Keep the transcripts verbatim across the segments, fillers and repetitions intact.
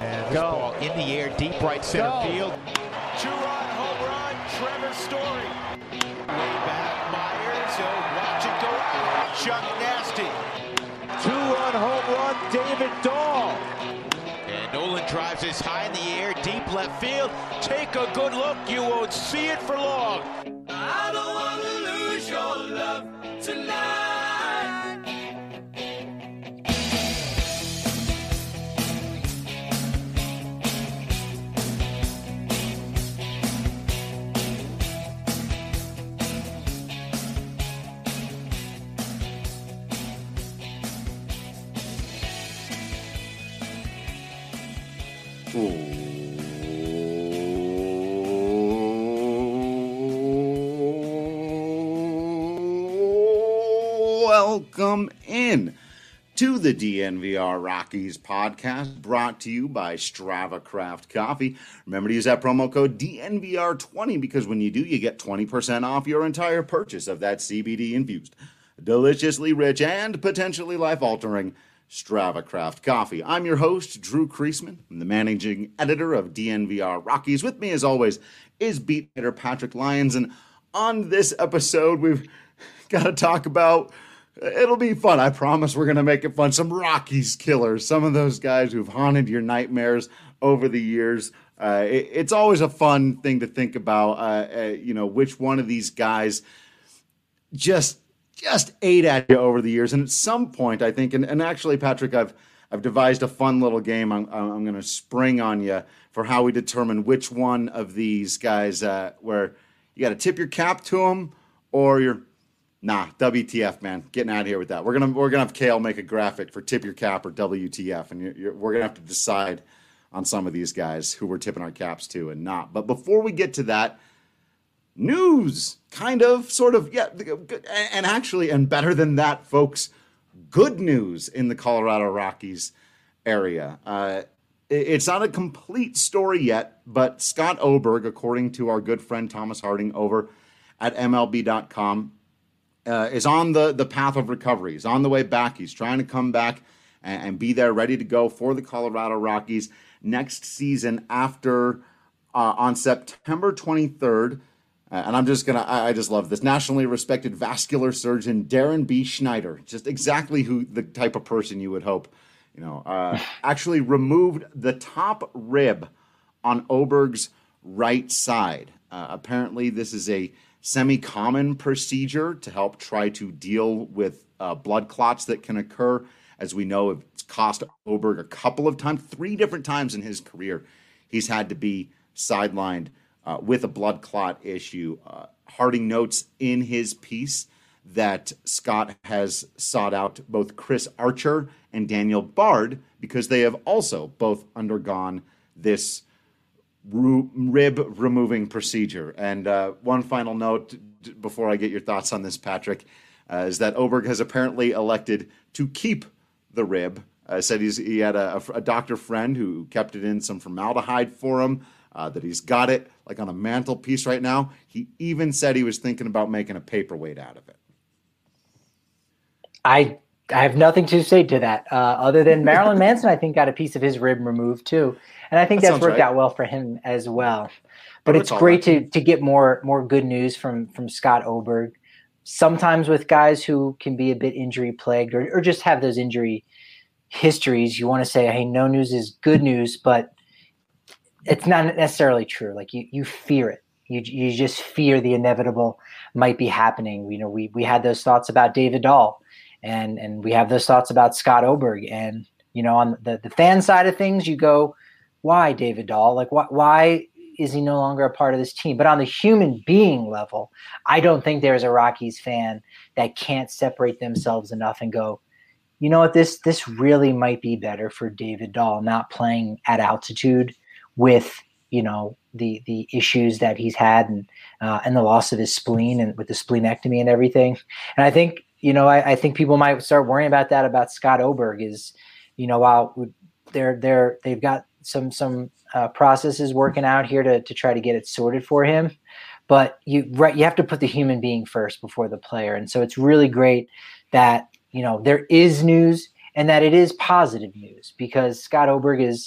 And this Go. ball in the air, deep right center Go. field. Two-run home run, Trevor Story. Way back, Myers. So watch it go out. Chuck Nasty. Two-run home run, David Dahl. And Nolan drives this high in the air, deep left field. Take a good look. You won't see it for long. I don't want to lose your love tonight. Welcome in to the D N V R Rockies podcast, brought to you by Strava Craft Coffee. Remember to use that promo code D N V R twenty because when you do, you get twenty percent off your entire purchase of that C B D-infused, deliciously rich, and potentially life-altering Strava Craft Coffee. I'm your host, Drew Kreisman. I'm the managing editor of D N V R Rockies. With me, as always, is beat hitter Patrick Lyons. And on this episode, we've got to talk about, it'll be fun. I promise we're going to make it fun. Some Rockies killers, some of those guys who've haunted your nightmares over the years. Uh, it, it's always a fun thing to think about, uh, uh, you know, which one of these guys just just ate at you over the years. And at some point, I think, and, and actually, Patrick, I've I've devised a fun little game I'm, I'm going to spring on you for how we determine which one of these guys, uh, where you got to tip your cap to them or you're, nah, W T F, man, getting out of here with that. We're going to we're gonna have Kale make a graphic for tip your cap or W T F, and you're, you're, we're going to have to decide on some of these guys who we're tipping our caps to and not. But before we get to that, news, kind of, sort of, yeah, and actually, and better than that, folks, good news in the Colorado Rockies area. Uh, it's not a complete story yet, but Scott Oberg, according to our good friend Thomas Harding over at M L B dot com, uh, is on the, the path of recovery. He's on the way back. He's trying to come back and, and be there, ready to go for the Colorado Rockies next season after, uh, on September twenty-third, Uh, and I'm just going to, I just love this. Nationally respected vascular surgeon Darren B. Schneider, just exactly who the type of person you would hope, you know, uh, actually removed the top rib on Oberg's right side. Uh, apparently, this is a semi-common procedure to help try to deal with uh, blood clots that can occur. As we know, it's cost Oberg a couple of times, three different times in his career, he's had to be sidelined Uh, with a blood clot issue. Uh, Harding notes in his piece that Scott has sought out both Chris Archer and Daniel Bard because they have also both undergone this ru- rib removing procedure. And uh, one final note d- before I get your thoughts on this, Patrick, uh, is that Oberg has apparently elected to keep the rib. Uh, said he's, he had a, a doctor friend who kept it in some formaldehyde for him. Uh, that he's got it like on a mantelpiece right now. He even said he was thinking about making a paperweight out of it. I I have nothing to say to that, uh, other than Marilyn Manson, I think, got a piece of his rib removed too. And I think that that's worked right. out well for him as well. But it's great to to get more more good news from, from Scott Oberg. Sometimes with guys who can be a bit injury plagued or, or just have those injury histories, you want to say, hey, no news is good news, but it's not necessarily true. Like you, you fear it. You, you just fear the inevitable might be happening. You know, we, we had those thoughts about David Dahl and, and we have those thoughts about Scott Oberg. And, you know, on the, the fan side of things, you go, why David Dahl? Like, why, why is he no longer a part of this team? But on the human being level, I don't think there's a Rockies fan that can't separate themselves enough and go, you know what, this, this really might be better for David Dahl not playing at altitude with, you know, the the issues that he's had and uh, and the loss of his spleen and with the splenectomy and everything. And I think, you know, I, I think people might start worrying about that about Scott Oberg is, you know, while they're they're they've got some some uh, processes working out here to to try to get it sorted for him, but you right you have to put the human being first before the player. And so it's really great that, you know, there is news and that it is positive news because Scott Oberg is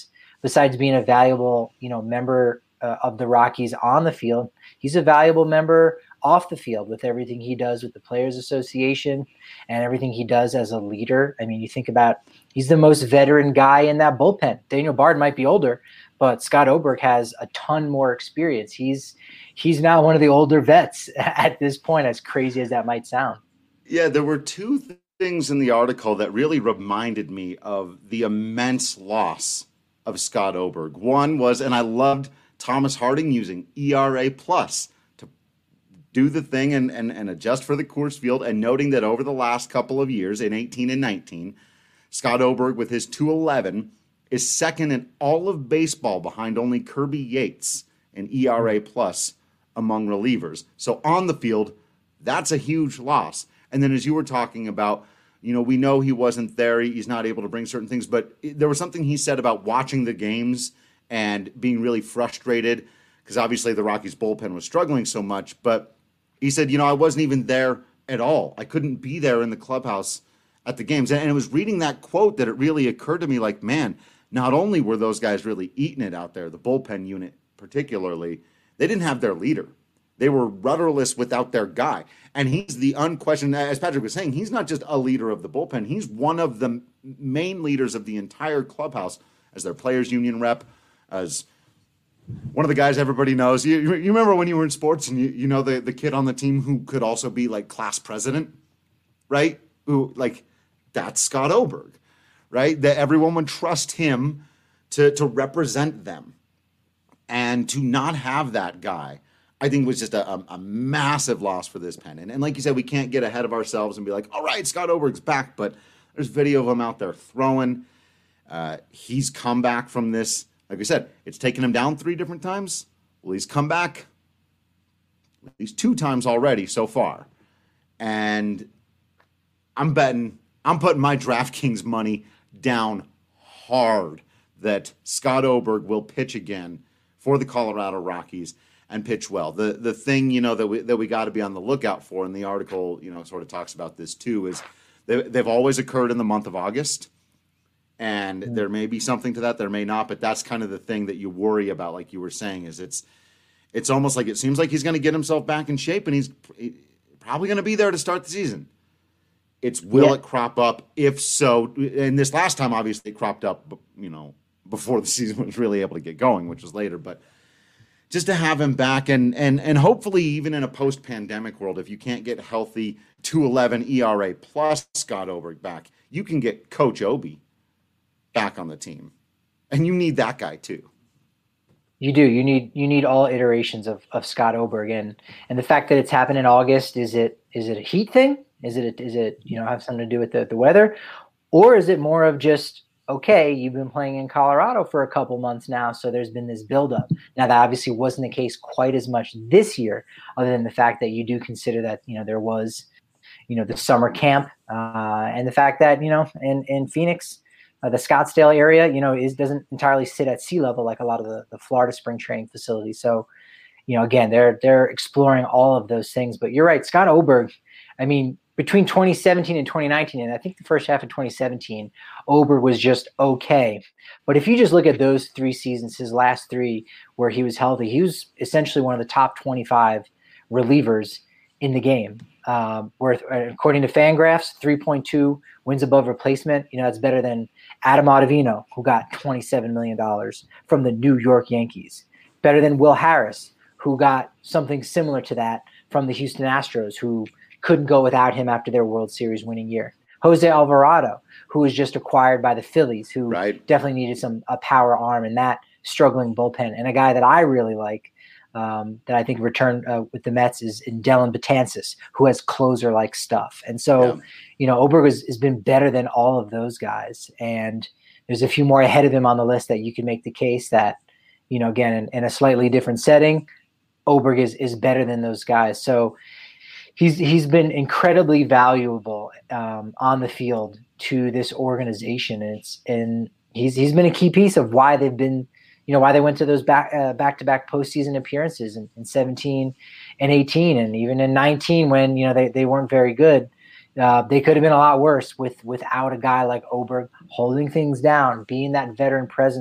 besides being a valuable, you know, member uh, of the Rockies on the field, he's a valuable member off the field with everything he does with the Players Association and everything he does as a leader. I mean, you think about, he's the most veteran guy in that bullpen. Daniel Bard might be older, but Scott Oberg has a ton more experience. He's he's now one of the older vets at this point, as crazy as that might sound. Yeah, there were two th- things in the article that really reminded me of the immense loss of Scott Oberg. One was, and I loved Thomas Harding using E R A plus to do the thing and, and, and adjust for the Coors Field, and noting that over the last couple of years, in eighteen and nineteen, Scott Oberg with his two eleven is second in all of baseball behind only Kirby Yates in E R A plus among relievers. So on the field, that's a huge loss. And then as you were talking about, you know, we know he wasn't there. He's not able to bring certain things. But there was something he said about watching the games and being really frustrated because obviously the Rockies bullpen was struggling so much. But he said, you know, I wasn't even there at all. I couldn't be there in the clubhouse at the games. And it was reading that quote that it really occurred to me like, man, not only were those guys really eating it out there, the bullpen unit particularly, they didn't have their leader. They were rudderless without their guy. And he's the unquestioned, as Patrick was saying, he's not just a leader of the bullpen. He's one of the main leaders of the entire clubhouse as their players union rep, as one of the guys everybody knows. You, you remember when you were in sports and you, you know the, the kid on the team who could also be like class president, right? Who, like, that's Scott Oberg, right? That everyone would trust him to, to represent them. And to not have that guy, I think was just a, a, a massive loss for this pen. And, and like you said, we can't get ahead of ourselves and be like, all right, Scott Oberg's back. But there's video of him out there throwing. Uh, he's come back from this. Like I said, it's taken him down three different times. Well, he's come back at least two times already so far. And I'm betting, I'm putting my DraftKings money down hard that Scott Oberg will pitch again for the Colorado Rockies and pitch well. The the thing, you know, that we that we got to be on the lookout for, and the article, you know, sort of talks about this too, is they, they've always occurred in the month of August. And mm-hmm. there may be something to that, there may not, but that's kind of the thing that you worry about, like you were saying, is it's it's almost like it seems like he's going to get himself back in shape, and he's probably going to be there to start the season. It's will yeah. it crop up? If so, and this last time, obviously, it cropped up, you know, before the season was really able to get going, which was later. But just to have him back, and and and hopefully even in a post-pandemic world, if you can't get healthy two eleven E R A plus Scott Oberg back, you can get Coach Obi back on the team. And you need that guy too. You do. You need you need all iterations of, of Scott Oberg. And and the fact that it's happened in August, is it is it a heat thing? Is it is it, you know, have something to do with the, the weather? Or is it more of just, okay, you've been playing in Colorado for a couple months now, so there's been this buildup. Now, that obviously wasn't the case quite as much this year, other than the fact that you do consider that, you know, there was, you know, the summer camp, uh, and the fact that, you know, in, in Phoenix, uh, the Scottsdale area, you know, is doesn't entirely sit at sea level like a lot of the, the Florida spring training facilities. So, you know, again, they're they're exploring all of those things. But you're right, Scott Oberg, I mean, between twenty seventeen and twenty nineteen, and I think the first half of twenty seventeen, Oberg was just okay. But if you just look at those three seasons, his last three where he was healthy, he was essentially one of the top twenty-five relievers in the game. Um, where, according to Fangraphs, three point two wins above replacement. You know, that's better than Adam Ottavino, who got twenty-seven million dollars from the New York Yankees. Better than Will Harris, who got something similar to that from the Houston Astros, who couldn't go without him after their World Series winning year. Jose Alvarado, who was just acquired by the Phillies, who right. definitely needed some a power arm in that struggling bullpen. And a guy that I really like, um, that I think returned uh, with the Mets, is Dylan Betances, who has closer-like stuff. And so, yeah. you know, Oberg has, has been better than all of those guys. And there's a few more ahead of him on the list that you can make the case that, you know, again, in, in a slightly different setting, Oberg is, is better than those guys. So, He's he's been incredibly valuable um, on the field to this organization, and it's and he's he's been a key piece of why they've been, you know, why they went to those back uh, back to back postseason appearances in, in seventeen and eighteen, and even in nineteen when, you know, they, they weren't very good. Uh, they could have been a lot worse with without a guy like Oberg holding things down, being that veteran presence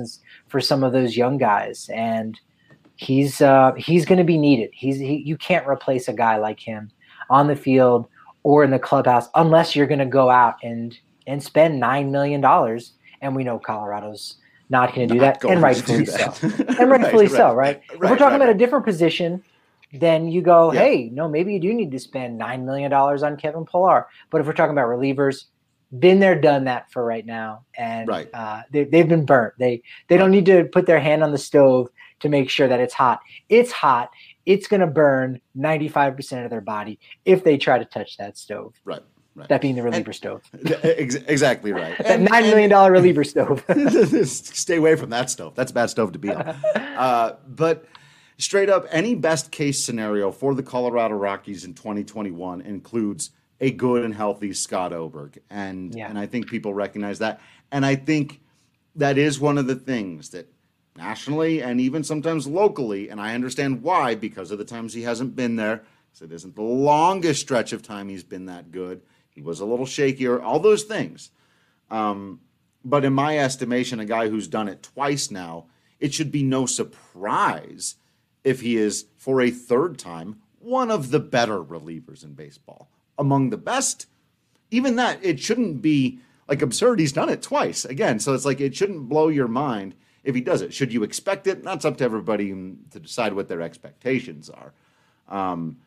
for some of those young guys. And he's uh, he's going to be needed. He's he, you can't replace a guy like him on the field or in the clubhouse unless you're going to go out and and spend nine million dollars. And we know Colorado's not going to do that, and rightfully so. And rightfully so, right? If we're talking about a different position, then you go, yeah. hey, no, maybe you do need to spend nine million dollars on Kevin Pillar. But if we're talking about relievers, been there, done that for right now. And right. uh, they, they've been burnt. They they don't need to put their hand on the stove to make sure that it's hot. It's hot. It's going to burn ninety-five percent of their body if they try to touch that stove. Right. Right. That being the reliever and, stove. Ex- exactly right. That nine million dollar reliever stove. Stay away from that stove. That's a bad stove to be on. Uh, but straight up, any best case scenario for the Colorado Rockies in twenty twenty-one includes a good and healthy Scott Oberg. And, yeah. and I think people recognize that. And I think that is one of the things that nationally and even sometimes locally, and I understand why, because of the times he hasn't been there, so it isn't the longest stretch of time he's been that good. He was a little shakier, all those things. Um, but in my estimation, a guy who's done it twice now, it should be no surprise if he is, for a third time, one of the better relievers in baseball. Among the best, even that, it shouldn't be like absurd. He's done it twice. Again, so it's like it shouldn't blow your mind if he does it. Should you expect it? That's up to everybody to decide what their expectations are. Um,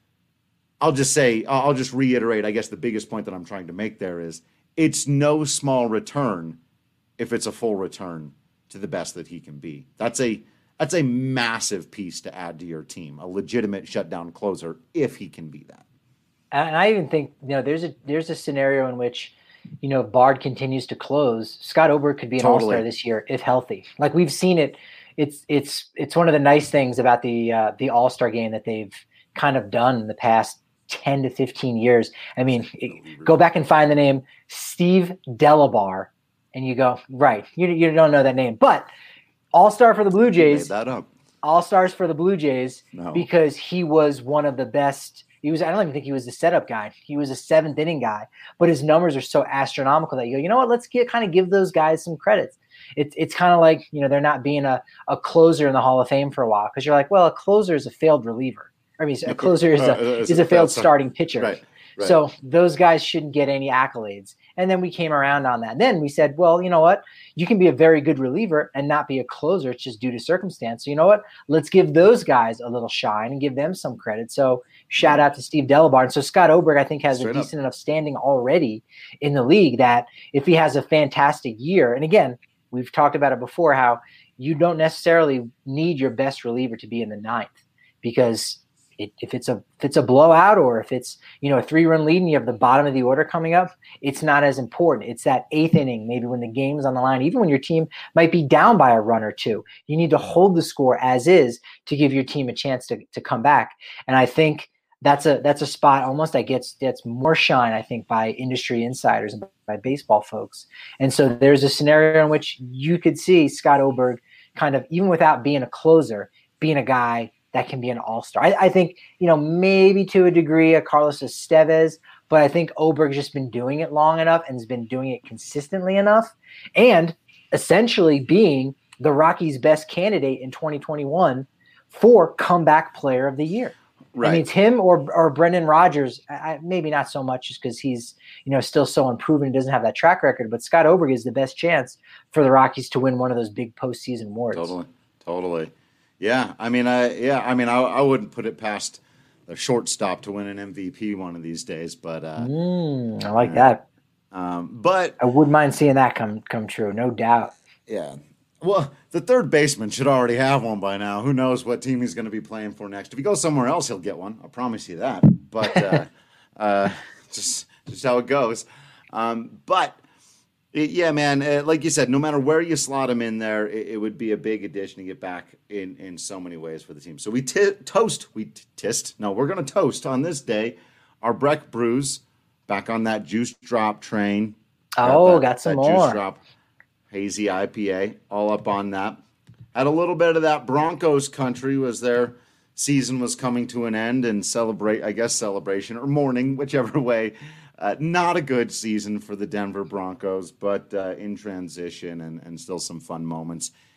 I'll just say, I'll just reiterate, I guess the biggest point that I'm trying to make there is it's no small return if it's a full return to the best that he can be. That's a that's a massive piece to add to your team, a legitimate shutdown closer if he can be that. And I even think, you know, there's a there's a scenario in which, you know, if Bard continues to close, Scott Oberg could be an totally. all-star this year if healthy. Like we've seen it. It's it's it's one of the nice things about the uh, the all-star game that they've kind of done in the past ten to fifteen years. I mean, it, go back and find the name Steve Delabar, and you go, right, you you don't know that name. But all-star for the Blue Jays. You made that up. All-stars for the Blue Jays no. because he was one of the best. He was, I don't even think he was the setup guy. He was a seventh inning guy, but his numbers are so astronomical that you go, you know what, let's get kind of give those guys some credits. It's it's kind of like, you know, they're not being a, a closer in the Hall of Fame for a while because you're like, well, a closer is a failed reliever. I mean, a closer is a, uh, is a, a failed starting pitcher. Right, right. So those guys shouldn't get any accolades. And then we came around on that. And then we said, well, you know what? You can be a very good reliever and not be a closer. It's just due to circumstance. So you know what? Let's give those guys a little shine and give them some credit. So shout out to Steve Delabar. And so Scott Oberg, I think, has Straight a decent up. enough standing already in the league that if he has a fantastic year, and again, we've talked about it before, how you don't necessarily need your best reliever to be in the ninth because It, if it's a if it's a blowout or if it's, you know, a three-run lead and you have the bottom of the order coming up, it's not as important. It's that eighth inning, maybe when the game's on the line, even when your team might be down by a run or two. You need to hold the score as is to give your team a chance to to come back. And I think that's a that's a spot almost that gets gets more shine, I think, by industry insiders and by baseball folks. And so there's a scenario in which you could see Scott Oberg kind of, even without being a closer, being a guy that can be an all-star. I, I think, you know, maybe to a degree a Carlos Estevez, but I think Oberg's just been doing it long enough and has been doing it consistently enough and essentially being the Rockies' best candidate in twenty twenty-one for comeback player of the year. Right. I mean, it's him or or Brendan Rodgers. I, maybe not so much just because he's, you know, still so unproven and doesn't have that track record, but Scott Oberg is the best chance for the Rockies to win one of those big postseason awards. Totally. Totally. Yeah, I mean, I yeah, I mean, I, I wouldn't put it past the shortstop to win an M V P one of these days, but uh, mm, I like uh, that. Um, but I wouldn't mind seeing that come come true, no doubt. Yeah, well, the third baseman should already have one by now. Who knows what team he's going to be playing for next? If he goes somewhere else, he'll get one. I promise you that. But uh, uh, just just how it goes. Um, but. It, yeah, man. Uh, like you said, no matter where you slot him in there, it, it would be a big addition to get back in, in so many ways for the team. So we t- toast, we t- tist. No, we're going to toast on this day our Breck Brews back on that juice drop train. Oh, got, that, got some that more. Juice drop hazy I P A, all up on that. Had a little bit of that Broncos country as their season was coming to an end and celebrate, I guess, celebration or mourning, whichever way. Uh, not a good season for the Denver Broncos, but uh, in transition and, and still some fun moments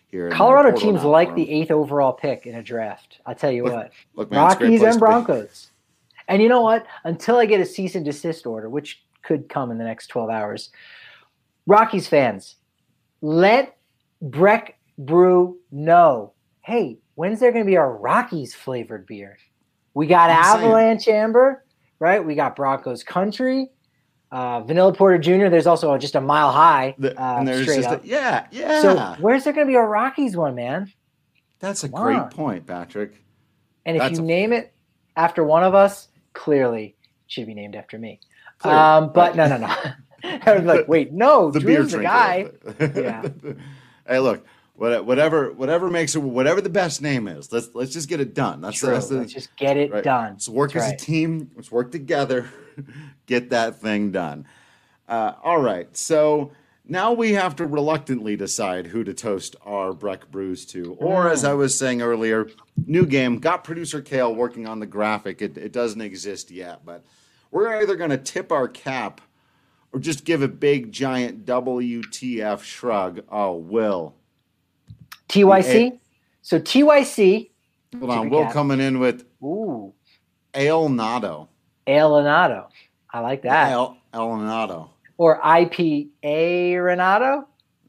here. Colorado teams like the eighth overall pick in a draft. I'll tell you look, what. Look, man, Rockies and Broncos. And you know what? Until I get a cease and desist order, which could come in the next twelve hours, Rockies fans, let Breck Brew know, hey, when's there going to be a Rockies flavored beer? We got I'm Avalanche saying. Amber, right? We got Broncos Country, uh, Vanilla Porter Junior There's also just a Mile High. The, uh, and there's straight just up. A, yeah, yeah. So where's there going to be a Rockies one, man? That's a Come great on. point, Patrick. And if That's you a, name it after one of us, clearly it should be named after me. Clearly, um, but right. no, no, no. I was like, wait, no, the Drew's beer the guy. Yeah. Hey, look. Whatever, whatever makes it, whatever the best name is, let's let's just get it done. That's, True. that's the, let's just get it right. done. Let's work that's as right. a team. Let's work together. Get that thing done. Uh, all right. So now we have to reluctantly decide who to toast our Breck Brews to, or mm. as I was saying earlier, new game. Got producer Kale working on the graphic. It, it doesn't exist yet, but we're either going to tip our cap or just give a big giant W T F shrug. Oh, Will. T Y C? So T Y C. Hold on. Will coming in with Ooh. Ale Nado. Ale Nado. I like that. Ale, Ale Nado. Or I P A Renato?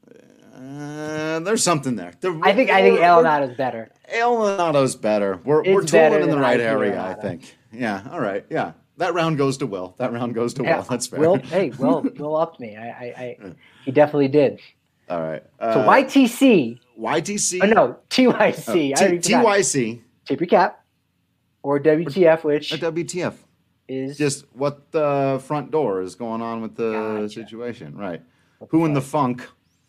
Uh, there's something there. The, I think I think Ale Nado is better. Ale Nado's better. We're, we're tooling in the right area, Renato. I think. Yeah. All right. Yeah. That round goes to Will. That round goes to yeah. Will. That's fair. Will, hey, Will, Will upped me. I, I, I, he definitely did. All right. Uh, so Y T C. Y T C. Oh, no, T Y C. Oh, T- T Y C. Tip your cap. Or W T F, which. Or W T F. Is. Just what the front door is going on with the gotcha. situation. Right. What Who in the funk?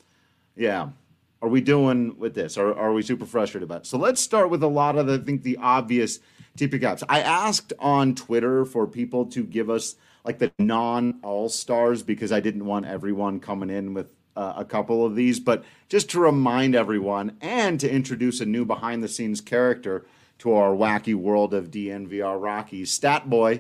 Yeah. Are we doing with this? Or are we super frustrated about it? So let's start with a lot of the, I think, the obvious tip your caps. I asked on Twitter for people to give us like the non-all-stars because I didn't want everyone coming in with uh, a couple of these. But just to remind everyone and to introduce a new behind-the-scenes character to our wacky world of D N V R Rockies, Stat Boy.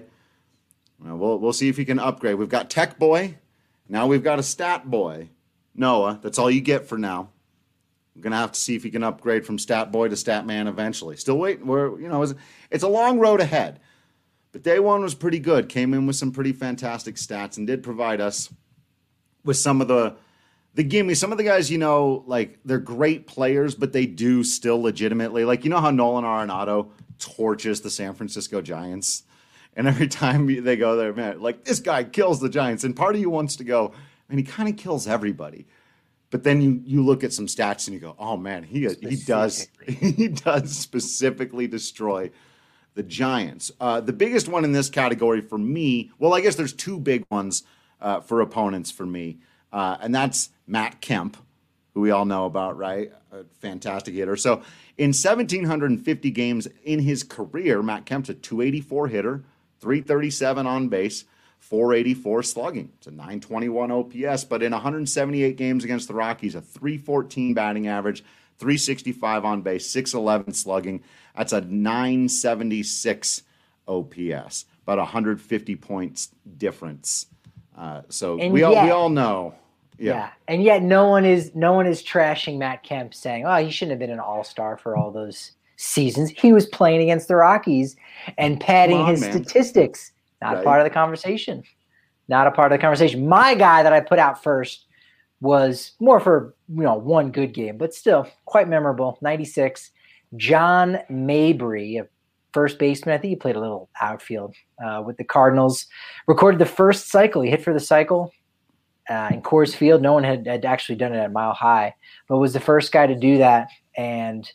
Well, we'll, we'll see if he can upgrade. We've got Tech Boy. Now we've got a Stat Boy. Noah, that's all you get for now. We're going to have to see if he can upgrade from Stat Boy to Stat Man eventually. Still waiting. We're, you know, it's, it's a long road ahead. But day one was pretty good. Came in with some pretty fantastic stats and did provide us with some of the the gimme. Some of the guys, you know, like they're great players, but they do still legitimately. Like, you know how Nolan Arenado torches the San Francisco Giants? And every time they go there, man, like this guy kills the Giants. And part of you wants to go, and he kind of kills everybody. But then you you look at some stats and you go, oh man, he he does he does specifically destroy the Giants. Uh, the biggest one in this category for me, well, I guess there's two big ones uh, for opponents for me, uh, and that's Matt Kemp, who we all know about, right? A fantastic hitter. So in one thousand seven hundred fifty games in his career, Matt Kemp's a two eighty-four hitter, three thirty-seven on base, four eighty-four slugging. It's a nine twenty-one O P S, but in one hundred seventy-eight games against the Rockies, a three fourteen batting average, three sixty-five on base, six eleven slugging. That's a nine seventy-six O P S, about one hundred fifty points difference. Uh, so and we yet, all we all know. Yeah. yeah, and yet no one is no one is trashing Matt Kemp, saying, "Oh, he shouldn't have been an all-star for all those seasons." He was playing against the Rockies and padding on, his man. statistics. Not right. part of the conversation. Not a part of the conversation. My guy that I put out first was more for, you know, one good game, but still quite memorable. ninety-six, John Mabry, a first baseman. I think he played a little outfield uh, with the Cardinals. Recorded the first cycle. He hit for the cycle uh, in Coors Field. No one had, had actually done it at Mile High, but was the first guy to do that. And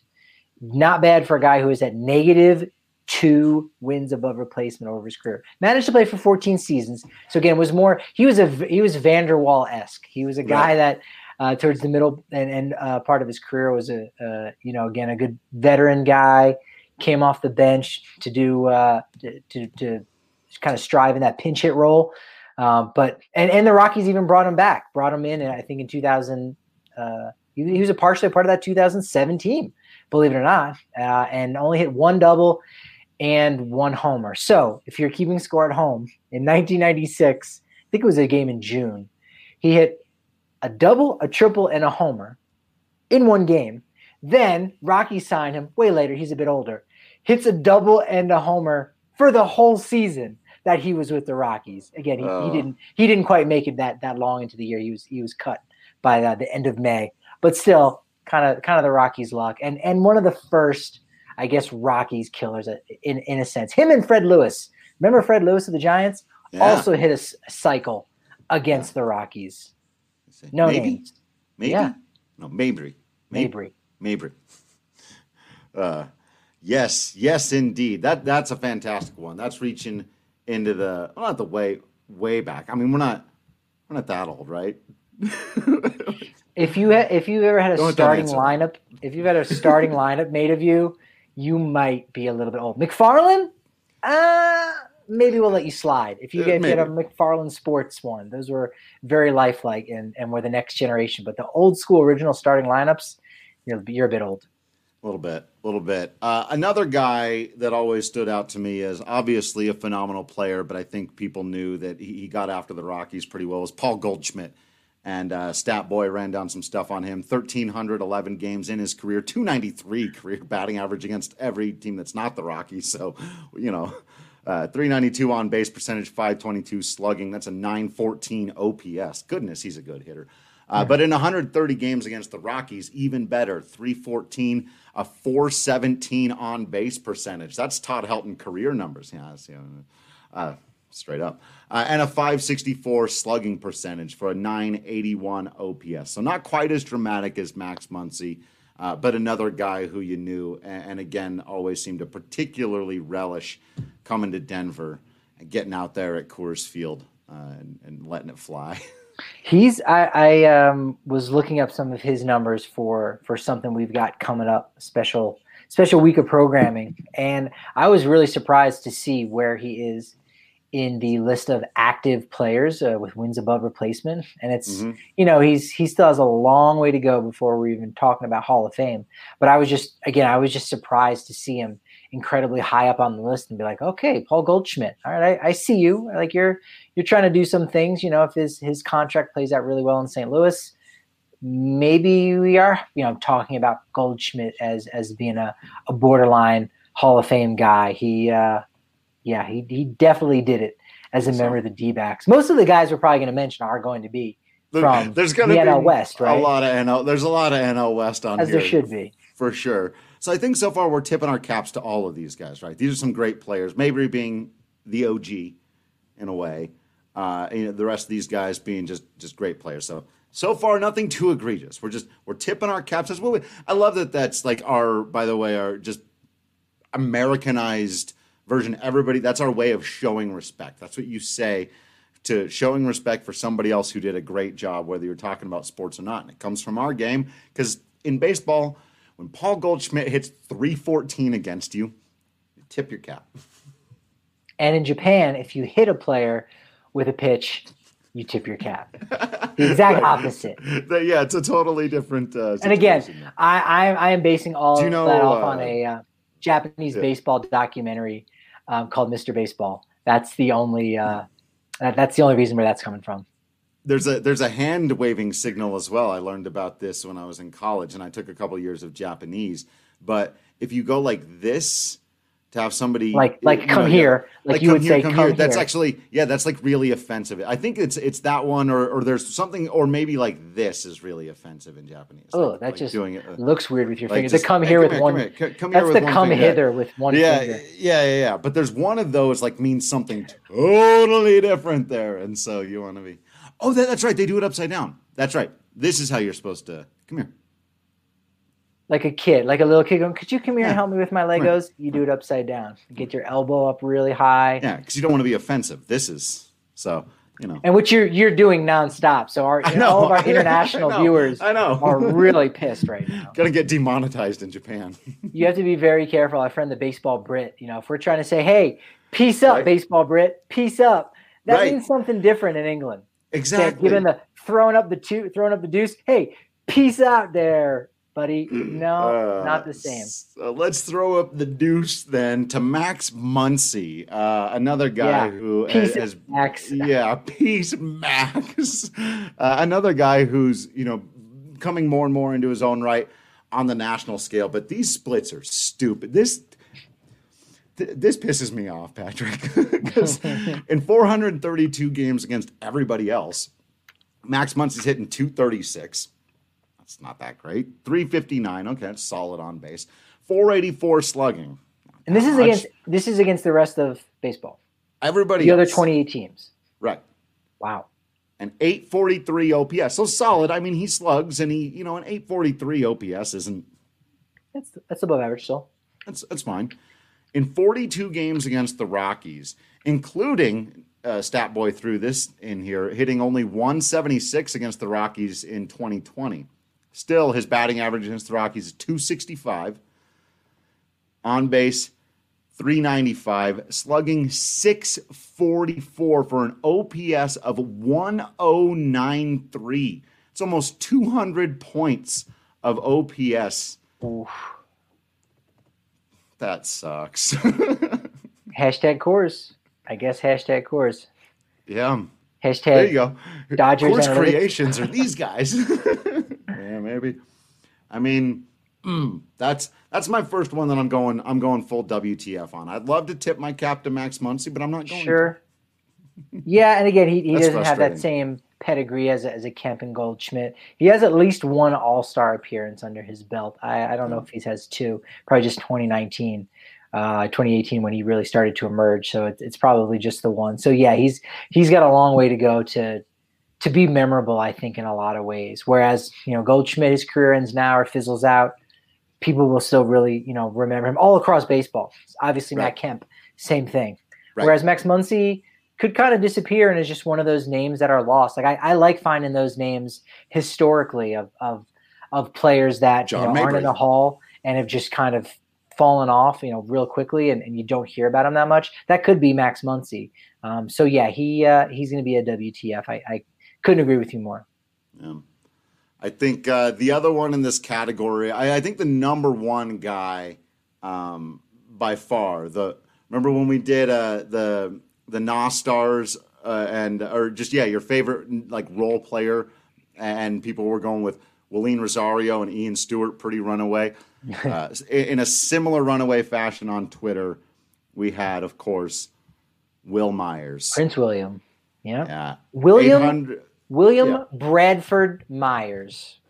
not bad for a guy who is at negative two wins above replacement over his career. Managed to play for fourteen seasons. So again, was more he was a he was Vanderwall-esque. He was a guy right. that uh, towards the middle and, and uh, part of his career was a uh, you know again a good veteran guy. Came off the bench to do uh, to, to to kind of strive in that pinch hit role. Um, but and and the Rockies even brought him back. Brought him in, I think in two thousand. Uh, he, he was a partially part of that two thousand seven team, believe it or not, uh, and only hit one double and one homer. So if you're keeping score at home, in nineteen ninety-six, I think it was a game in June, he hit a double, a triple, and a homer in one game. Then Rockies signed him way later. He's a bit older. Hits a double and a homer for the whole season that he was with the Rockies. Again, he, uh. he didn't he didn't quite make it that that long into the year. He was he was cut by the, the end of May. But still, kind of kind of the Rockies' luck. And and one of the first, I guess, Rockies killers in in a sense. Him and Fred Lewis. Remember Fred Lewis of the Giants? Yeah. Also hit a, a cycle against the Rockies. No Maybe. names. Maybe. Yeah. No, Mabry. Mabry. Mabry. Uh, yes, yes, indeed. That that's a fantastic one. That's reaching into the well, not the way way back. I mean, we're not we're not that old, right? if you ha- if you ever had a don't, starting don't lineup, if you've had a starting lineup made of you, you might be a little bit old. McFarland, uh maybe we'll let you slide. If you get, get a McFarland Sports one, those were very lifelike and, and were the next generation. But the old school original starting lineups, you're, you're a bit old. A little bit, a little bit. Uh, another guy that always stood out to me as obviously a phenomenal player, but I think people knew that he, he got after the Rockies pretty well, was Paul Goldschmidt. And uh, Stat Boy ran down some stuff on him. one thousand three hundred eleven games in his career, two ninety-three career batting average against every team that's not the Rockies. So, you know, uh, three ninety-two on base percentage, five twenty-two slugging. That's a nine fourteen O P S. Goodness, he's a good hitter. Uh, but in one hundred thirty games against the Rockies, even better, three fourteen, a four seventeen on base percentage. That's Todd Helton career numbers. Yeah, that's, you know, uh, straight up. Uh, and a five sixty-four slugging percentage for a nine eighty-one O P S. So not quite as dramatic as Max Muncy, uh, but another guy who you knew, and, and again, always seemed to particularly relish coming to Denver and getting out there at Coors Field uh, and, and letting it fly. He's I, I um, was looking up some of his numbers for for something we've got coming up, special special week of programming, and I was really surprised to see where he is in the list of active players uh, with wins above replacement. And it's, mm-hmm. you know, he's, he still has a long way to go before we're even talking about Hall of Fame. But I was just, again, I was just surprised to see him incredibly high up on the list and be like, okay, Paul Goldschmidt. All right. I, I see you. Like you're, you're trying to do some things, you know, if his, his contract plays out really well in Saint Louis, maybe we are, you know, talking about Goldschmidt as, as being a, a borderline Hall of Fame guy. He, uh, Yeah, he he definitely did it as a member of the D-backs. Most of the guys we're probably going to mention are going to be from there's gonna the be N L West, right? A lot of N L. There's a lot of N L West on as here. As there should be. For sure. So I think so far we're tipping our caps to all of these guys, right? These are some great players. Mabry being the O G in a way. Uh, you know, the rest of these guys being just, just great players. So so far nothing too egregious. We're just we're tipping our caps as well. I love that that's like our, by the way, our just Americanized version. Everybody, that's our way of showing respect. That's what you say to showing respect for somebody else who did a great job, whether you're talking about sports or not. And it comes from our game because in baseball, when Paul Goldschmidt hits three fourteen against you, you tip your cap. And in Japan, if you hit a player with a pitch, you tip your cap. The exact opposite. Yeah, it's a totally different uh, and again, I, I I am basing all you know, that off uh, on a uh, Japanese yeah. baseball documentary um, called Mister Baseball. That's the only uh, that, that's the only reason where that's coming from. There's a there's a hand waving signal as well. I learned about this when I was in college, and I took a couple of years of Japanese. But if you go like this, to have somebody like like come know, here, yeah, like, like you would here, say, come, come here. That's here. actually yeah, that's like really offensive. I think it's it's that one, or or there's something, or maybe like this is really offensive in Japanese. Oh, like, that like just doing it, uh, looks weird with your like fingers. Just, the come hey, here come with here, one. Come here, come that's here the with come one hither with one yeah, finger. Yeah, yeah, yeah. But there's one of those like means something totally different there, and so you want to be. Oh, that, that's right. They do it upside down. That's right. This is how you're supposed to come here. Like a kid, like a little kid going, could you come here yeah. and help me with my Legos? You do it upside down. Get your elbow up really high. Yeah, because you don't want to be offensive. This is, so, you know. And which you're you're doing nonstop. So our, know, all of our international I know, viewers I know. are really pissed right now. Gonna get demonetized in Japan. You have to be very careful. Our friend, the Baseball Brit, you know, if we're trying to say, hey, peace up, right. Baseball Brit, peace up, that right. means something different in England. Exactly. Given the throwing up the two, throwing up the deuce, hey, peace out there, buddy. No, uh, not the same. So let's throw up the deuce then to Max Muncy, uh, another guy yeah. who peace has, Max. Yeah, peace Max. Uh, another guy who's, you know, coming more and more into his own right. on the national scale, but these splits are stupid. This th- this pisses me off, Patrick, because in four hundred thirty-two games against everybody else, Max Muncy's hitting two thirty-six. That's not that great. three fifty-nine. Okay, that's solid on base. four eighty-four slugging. And this is much. against this is against the rest of baseball. Everybody the else. other twenty-eight teams. Right. Wow. An eight forty-three O P S. So solid. I mean, he slugs, and he, you know, an eight forty-three O P S isn't. That's that's above average still. That's that's fine. In forty-two games against the Rockies, including uh, Stat Boy threw this in here, hitting only one seventy-six against the Rockies in twenty twenty. Still, his batting average against the Rockies is two sixty-five. On base, three ninety-five. Slugging, six forty-four for an O P S of one oh nine three. It's almost two hundred points of O P S. Oof. That sucks. Hashtag Coors. I guess hashtag Coors. Yeah. Hashtag there you go. Dodgers Coors analytics. Creations are these guys. Yeah, maybe. I mean, mm, that's that's my first one that I'm going. I'm going full W T F on. I'd love to tip my cap to Max Muncy, but I'm not going. Sure. To. Yeah, and again, he, he doesn't have that frustrating. same pedigree as a, as a Kemp and Goldschmidt. He has at least one All-Star appearance under his belt. I, I don't know if he has two. Probably just twenty nineteen, uh, twenty eighteen when he really started to emerge. So it's it's probably just the one. So yeah, he's he's got a long way to go to to be memorable, I think, in a lot of ways. Whereas, you know, Goldschmidt, his career ends now or fizzles out. People will still really, you know, remember him all across baseball. Obviously, Right. Matt Kemp, same thing. Right. Whereas Max Muncy could kind of disappear and is just one of those names that are lost. Like I, I like finding those names historically of of of players that you know, aren't in the hall and have just kind of fallen off, you know, real quickly, and, and you don't hear about him that much. That could be Max Muncy. Um, so yeah, he uh, he's going to be a W T F. I, I couldn't agree with you more. Yeah. I think uh, the other one in this category, I, I think the number one guy um, by far. The remember when we did uh, the the N O S stars uh, and or just yeah your favorite like role player, and people were going with Willeen Rosario and Ian Stewart, pretty runaway. Uh, in a similar runaway fashion on Twitter, we had, of course, Will Myers, Prince William. Yeah. Yeah. William William yeah. Bradford Myers.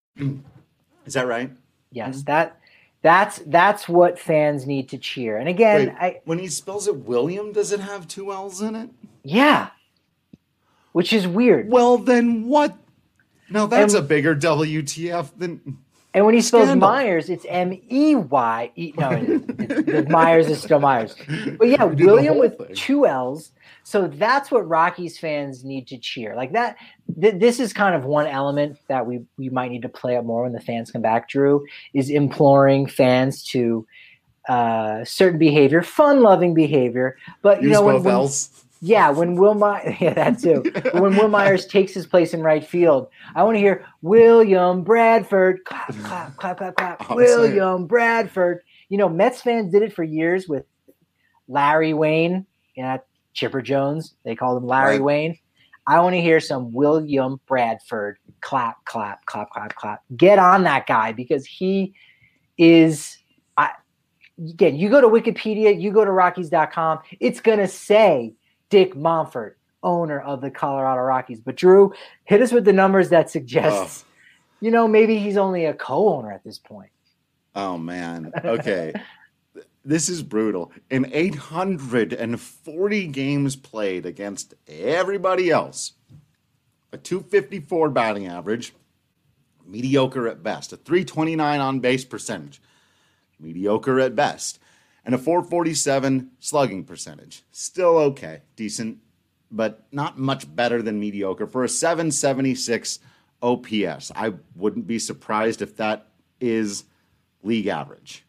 Is that right? Yes, mm-hmm. that that's that's what fans need to cheer. And again, Wait, I when he spells it William, does it have two L's in it? Yeah. Which is weird. Well, then what? Now that's and, a bigger W T F than. And when he spells Scandal. Myers, it's M E Y E. No, it's, it's, Myers is still Myers. But yeah, We did the William whole with thing. two L's. So that's what Rockies fans need to cheer. Like that. Th- this is kind of one element that we we might need to play up more when the fans come back. Drew is imploring fans to uh, certain behavior, fun-loving behavior. But you Use know when, both when L's. Yeah, when Will My- yeah, that too. When Will Myers takes his place in right field, I want to hear William Bradford, clap, clap, clap, clap, clap. I'm William saying. Bradford. You know, Mets fans did it for years with Larry Wayne, you know, Chipper Jones. They called him Larry Right. Wayne. I want to hear some William Bradford, clap, clap, clap, clap, clap. Get on that guy because he is. I, again, you go to Wikipedia, you go to Rockies dot com. It's gonna say Dick Monfort, owner of the Colorado Rockies. But Drew, hit us with the numbers that suggests, Oh. you know, maybe he's only a co-owner at this point. Oh man. Okay. This is brutal. In eight hundred forty games played against everybody else, a two fifty-four batting average, mediocre at best, a three twenty-nine on base percentage, mediocre at best, and a four forty-seven slugging percentage. Still okay, decent, but not much better than mediocre for a seven seventy-six O P S. I wouldn't be surprised if that is league average.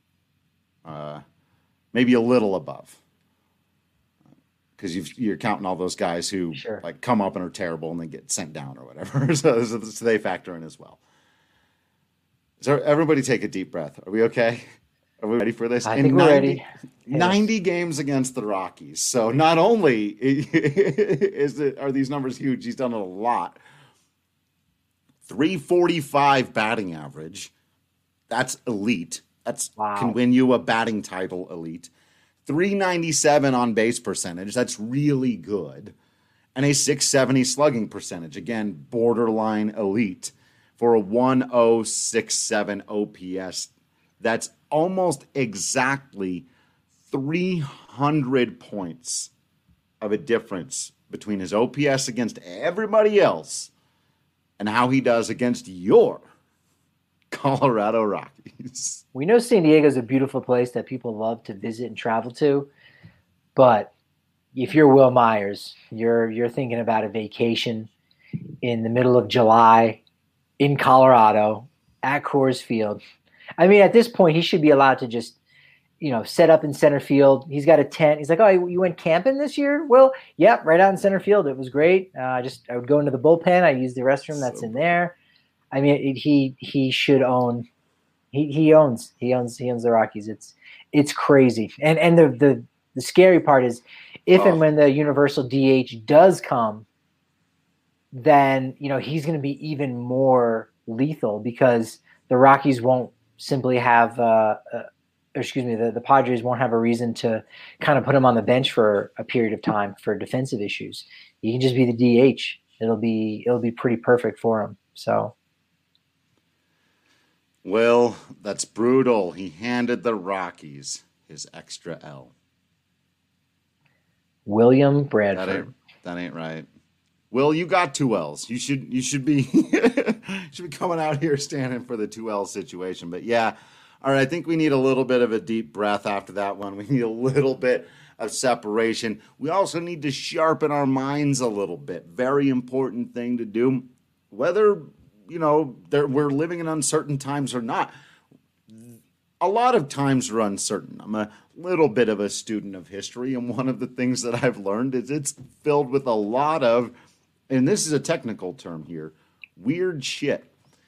Uh, maybe a little above, because you're counting all those guys who Sure. like come up and are terrible and then get sent down or whatever. so, so, so they factor in as well. So everybody take a deep breath. Are we okay? Are we ready for this? I In think we're ninety, ready. ninety games against the Rockies. So not only is it, are these numbers huge, he's done it a lot. three forty-five batting average, That's elite. That's wow. Can win you a batting title elite. three ninety-seven on base percentage. That's really good. And a six seventy slugging percentage. Again, borderline elite for a one oh six seven O P S. That's almost exactly three hundred points of a difference between his O P S against everybody else and how he does against your Colorado Rockies. We know San Diego is a beautiful place that people love to visit and travel to, but if you're Will Myers, you're you're thinking about a vacation in the middle of July in Colorado at Coors Field. I mean, at this point, he should be allowed to just, you know, set up in center field. He's got a tent. He's like, oh, you went camping this year? Well, yep, right out in center field. It was great. Uh, just I would go into the bullpen. I use the restroom that's so in there. I mean, it, he he should own. He he owns he owns he owns the Rockies. It's it's crazy. And and the the the scary part is, if oh. and when the universal D H does come, then you know he's going to be even more lethal because the Rockies won't simply have. Uh, uh, excuse me, the, the Padres won't have a reason to kind of put him on the bench for a period of time for defensive issues. He can just be the D H. It'll be it'll be pretty perfect for him. So. Well, that's brutal. He handed the Rockies his extra L. William Bradford. That ain't, that ain't right. Will, you got two L's. You should you should be should be coming out here standing for the two L situation. But yeah, all right. I think we need a little bit of a deep breath after that one. We need a little bit of separation. We also need to sharpen our minds a little bit. Very important thing to do. Whether you know, we're living in uncertain times or not. A lot of times are uncertain. I'm a little bit of a student of history, and one of the things that I've learned is it's filled with a lot of, and this is a technical term here, weird shit.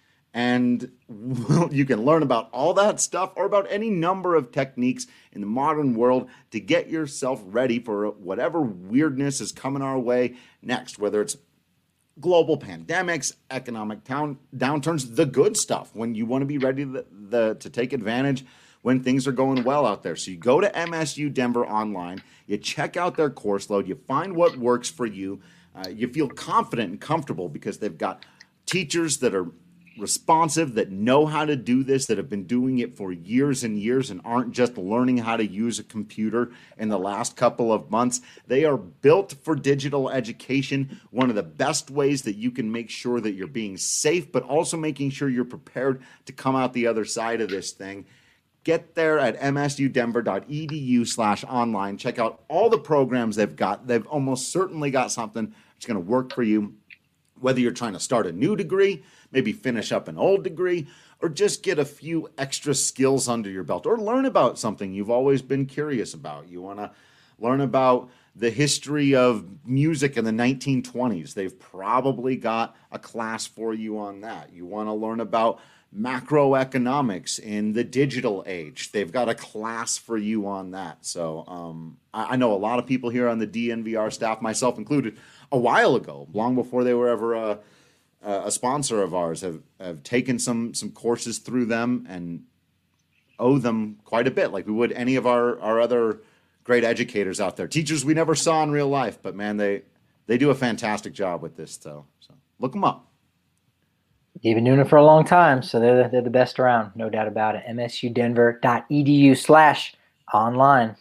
And you can learn about all that stuff or about any number of techniques in the modern world to get yourself ready for whatever weirdness is coming our way next, whether it's global pandemics, economic down, downturns, the good stuff, when you want to be ready to, the, to take advantage when things are going well out there. So you go to M S U Denver online, you check out their course load, you find what works for you, uh, you feel confident and comfortable because they've got teachers that are responsive, that know how to do this, that have been doing it for years and years and aren't just learning how to use a computer in the last couple of months. They are built for digital education. One of the best ways that you can make sure that you're being safe, but also making sure you're prepared to come out the other side of this thing. Get there at msudenver.edu slash online. Check out all the programs they've got. They've almost certainly got something that's going to work for you, whether you're trying to start a new degree, maybe finish up an old degree, or just get a few extra skills under your belt, or learn about something you've always been curious about. You want to learn about the history of music in the nineteen twenties. They've probably got a class for you on that. You want to learn about macroeconomics in the digital age. They've got a class for you on that. So um, I, I know a lot of people here on the D N V R staff, myself included, a while ago, long before they were ever a, a sponsor of ours, have, have taken some some courses through them and owe them quite a bit, like we would any of our, our other great educators out there. Teachers we never saw in real life, but man, they, they do a fantastic job with this. So, so look them up. They've been doing it for a long time, so they're the, they're the best around, no doubt about it. msudenver.edu slash online.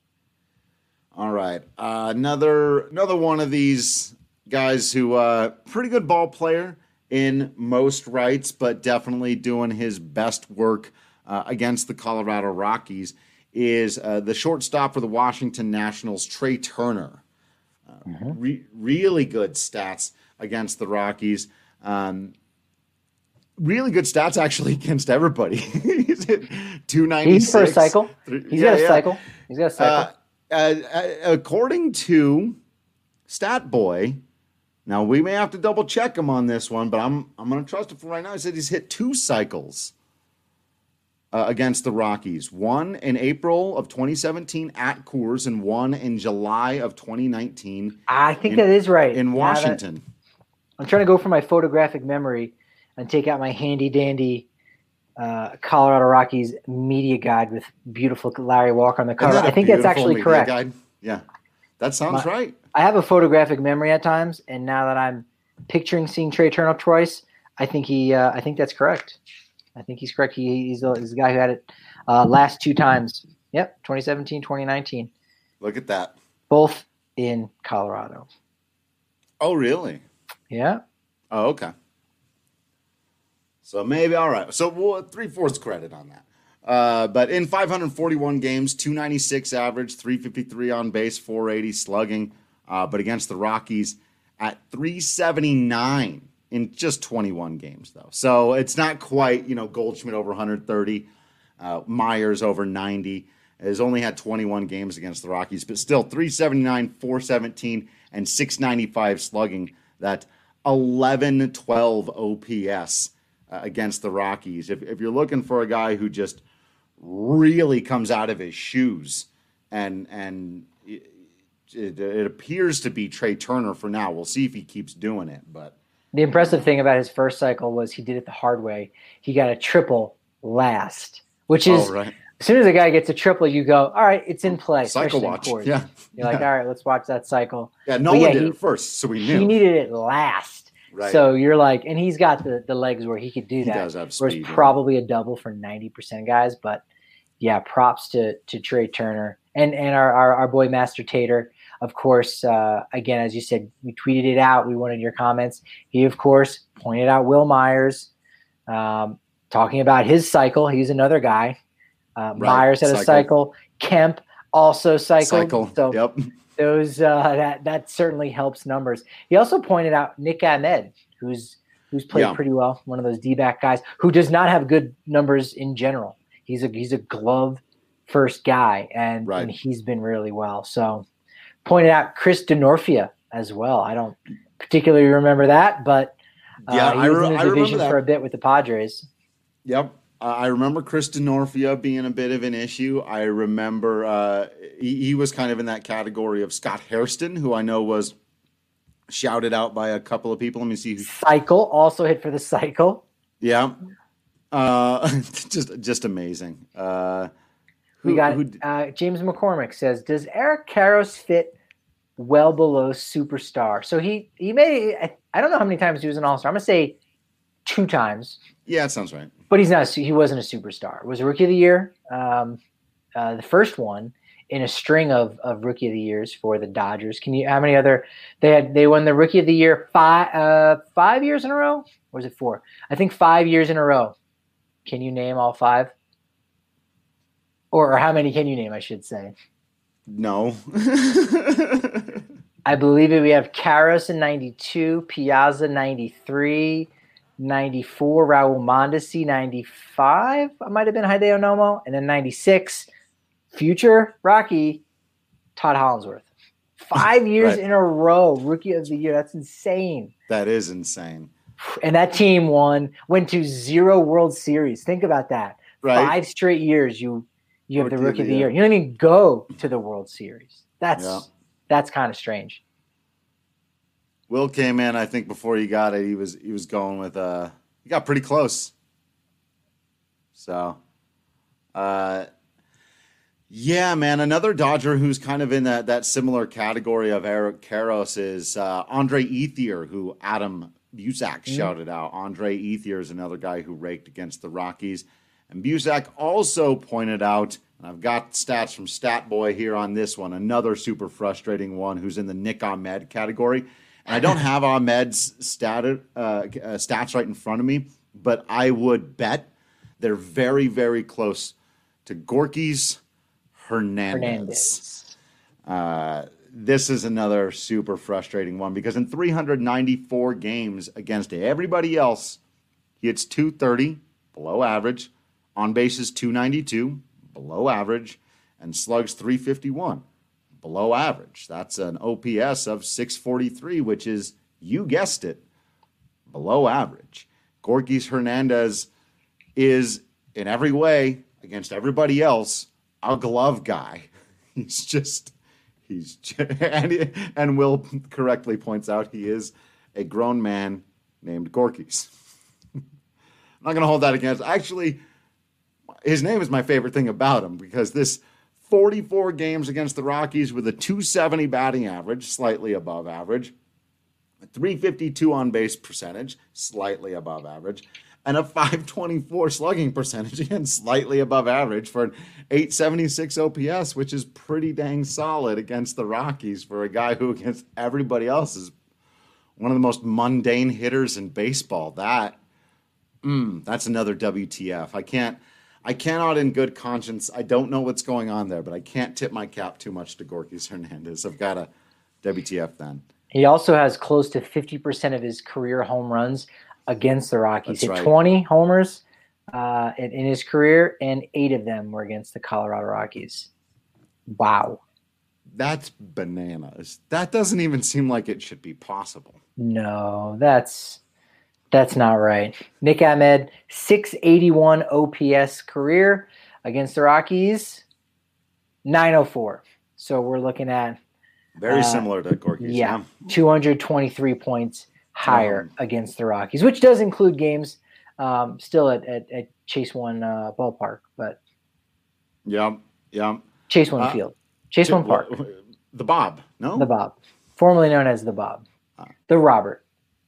All right, uh, another another one of these guys who uh, pretty good ball player in most rights, but definitely doing his best work uh, against the Colorado Rockies is uh, the shortstop for the Washington Nationals, Trey Turner. Uh, mm-hmm. re- really good stats against the Rockies. Um, really good stats actually against everybody. He's hit two ninety-six. He's for a cycle. He's yeah, got a yeah. cycle. He's got a cycle. Uh, uh, according to Stat Boy, now we may have to double check him on this one, but I'm I'm going to trust him for right now. He said he's hit two cycles uh, against the Rockies. One in April of twenty seventeen at Coors, and one in July of twenty nineteen. I think in, that is right. In Washington. I'm trying to go for my photographic memory and take out my handy dandy uh, Colorado Rockies media guide with beautiful Larry Walker on the cover. I think that's actually correct. Guide? Yeah, that sounds My, right. I have a photographic memory at times, and now that I'm picturing seeing Trey Turner twice, I think he. Uh, I think that's correct. I think he's correct. He, he's, a, he's the guy who had it uh, last two times. Yep, twenty seventeen, twenty nineteen. Look at that. Both in Colorado. Oh, really? Yeah. Oh, okay. So maybe, all right. So we'll, three-fourths credit on that. Uh, but in five hundred forty-one games, two ninety-six average, three fifty-three on base, four eighty slugging. Uh, but against the Rockies at three seventy-nine in just twenty-one games, though. So it's not quite, you know, Goldschmidt over one thirty, uh, Myers over ninety. Has only had twenty-one games against the Rockies, but still three seventy-nine, four seventeen, and six ninety-five slugging. That eleven twelve O P S uh, against the Rockies. If, if you're looking for a guy who just really comes out of his shoes, and and it, it, it appears to be Trey Turner for now. We'll see if he keeps doing it. But the impressive thing about his first cycle was he did it the hard way. He got a triple last, which is oh, right. As soon as a guy gets a triple, you go, all right, it's in play. Cycle watch. Yeah. You're yeah. like, all right, let's watch that cycle. Yeah, no but one yeah, did he, it first, so we knew. He needed it last. Right. So you're like, and he's got the, the legs where he could do he that. Does have where speed, it's probably a double for ninety percent guys. But yeah, props to to Trey Turner. And and our, our, our boy Master Tater, of course, uh, again, as you said, we tweeted it out. We wanted your comments. He, of course, pointed out Will Myers, um, talking about his cycle. He's another guy. Uh, right. Myers had cycle. a cycle. Kemp also cycled. Cycle. So yep. those uh, that that certainly helps numbers. He also pointed out Nick Ahmed, who's who's played yeah. pretty well, one of those D-back guys who does not have good numbers in general. He's a he's a glove first guy, and, right. and he's been really well. So pointed out Chris Denorfia as well. I don't particularly remember that, but uh, yeah, he I, was re- in the I division remember that. for a bit with the Padres. Yep. Uh, I remember Chris Denorfia being a bit of an issue. I remember uh, he, he was kind of in that category of Scott Hairston, who I know was shouted out by a couple of people. Let me see. Who... Cycle also hit for the cycle. Yeah. Uh, just just amazing. Uh, who, we got who... uh, James McCormick says, does Eric Karros fit well below superstar? So he, he made, I, I don't know how many times he was an all-star. I'm going to say two times. Yeah, that sounds right. But he's not. He wasn't a superstar. It was a Rookie of the Year, um, uh, the first one in a string of, of Rookie of the Years for the Dodgers. Can you? How many other? They had. They won the Rookie of the Year five uh, five years in a row. Or was it four? I think five years in a row. Can you name all five? Or, or how many can you name? I should say. No. I believe it. We have Karros in ninety-two, Piazza ninety-three. ninety-four, Raul Mondesi, ninety-five, I might have been Hideo Nomo, and then ninety-six, future Rocky, Todd Hollinsworth. Five years right. in a row, Rookie of the Year. That's insane. That is insane. And that team won, went to zero World Series. Think about that. Right. Five straight years you you have Rookie the Rookie of the year. Year. You don't even go to the World Series. That's yeah. that's kind of strange. Will came in, I think before he got it, he was he was going with uh he got pretty close. So uh yeah, man, another Dodger who's kind of in that that similar category of Eric Karros is uh Andre Ethier, who Adam Busak mm-hmm. shouted out. Andre Ethier is another guy who raked against the Rockies. And Busak also pointed out, and I've got stats from Statboy here on this one, another super frustrating one who's in the Nick Ahmed category. And I don't have Ahmed's stat, uh, uh, stats right in front of me, but I would bet they're very, very close to Gorky's Hernandez. Hernandez. Uh, this is another super frustrating one because in three hundred ninety-four games against everybody else, he hits two thirty, below average, on bases two ninety-two, below average, and slugs three fifty-one. Below average. That's an O P S of six forty-three, which is, you guessed it, below average. Gorkys Hernandez is, in every way, against everybody else, a glove guy. He's just, he's, just, and, and Will correctly points out he is a grown man named Gorkys. I'm not going to hold that against. Actually, his name is my favorite thing about him because this forty-four games against the Rockies with a two seventy batting average, slightly above average, a three fifty-two on base percentage, slightly above average, and a five twenty-four slugging percentage, again, slightly above average for an eight seventy-six O P S, which is pretty dang solid against the Rockies for a guy who against everybody else is one of the most mundane hitters in baseball. That, mm, that's another W T F. I can't, I cannot in good conscience, I don't know what's going on there, but I can't tip my cap too much to Gorky Hernandez. I've got a W T F then. He also has close to fifty percent of his career home runs against the Rockies. He hit right. twenty homers uh, in, in his career, and eight of them were against the Colorado Rockies. Wow. That's bananas. That doesn't even seem like it should be possible. No, that's that's not right. Nick Ahmed, six eighty-one O P S career against the Rockies, nine oh four. So we're looking at very uh, similar to Gorky's. Yeah, yeah, two hundred twenty-three points higher um, against the Rockies, which does include games um, still at, at, at Chase One uh, Ballpark, but yeah, yeah, Chase One uh, Field, Chase One Park, the Bob, no, the Bob, formerly known as the Bob, uh, the Robert.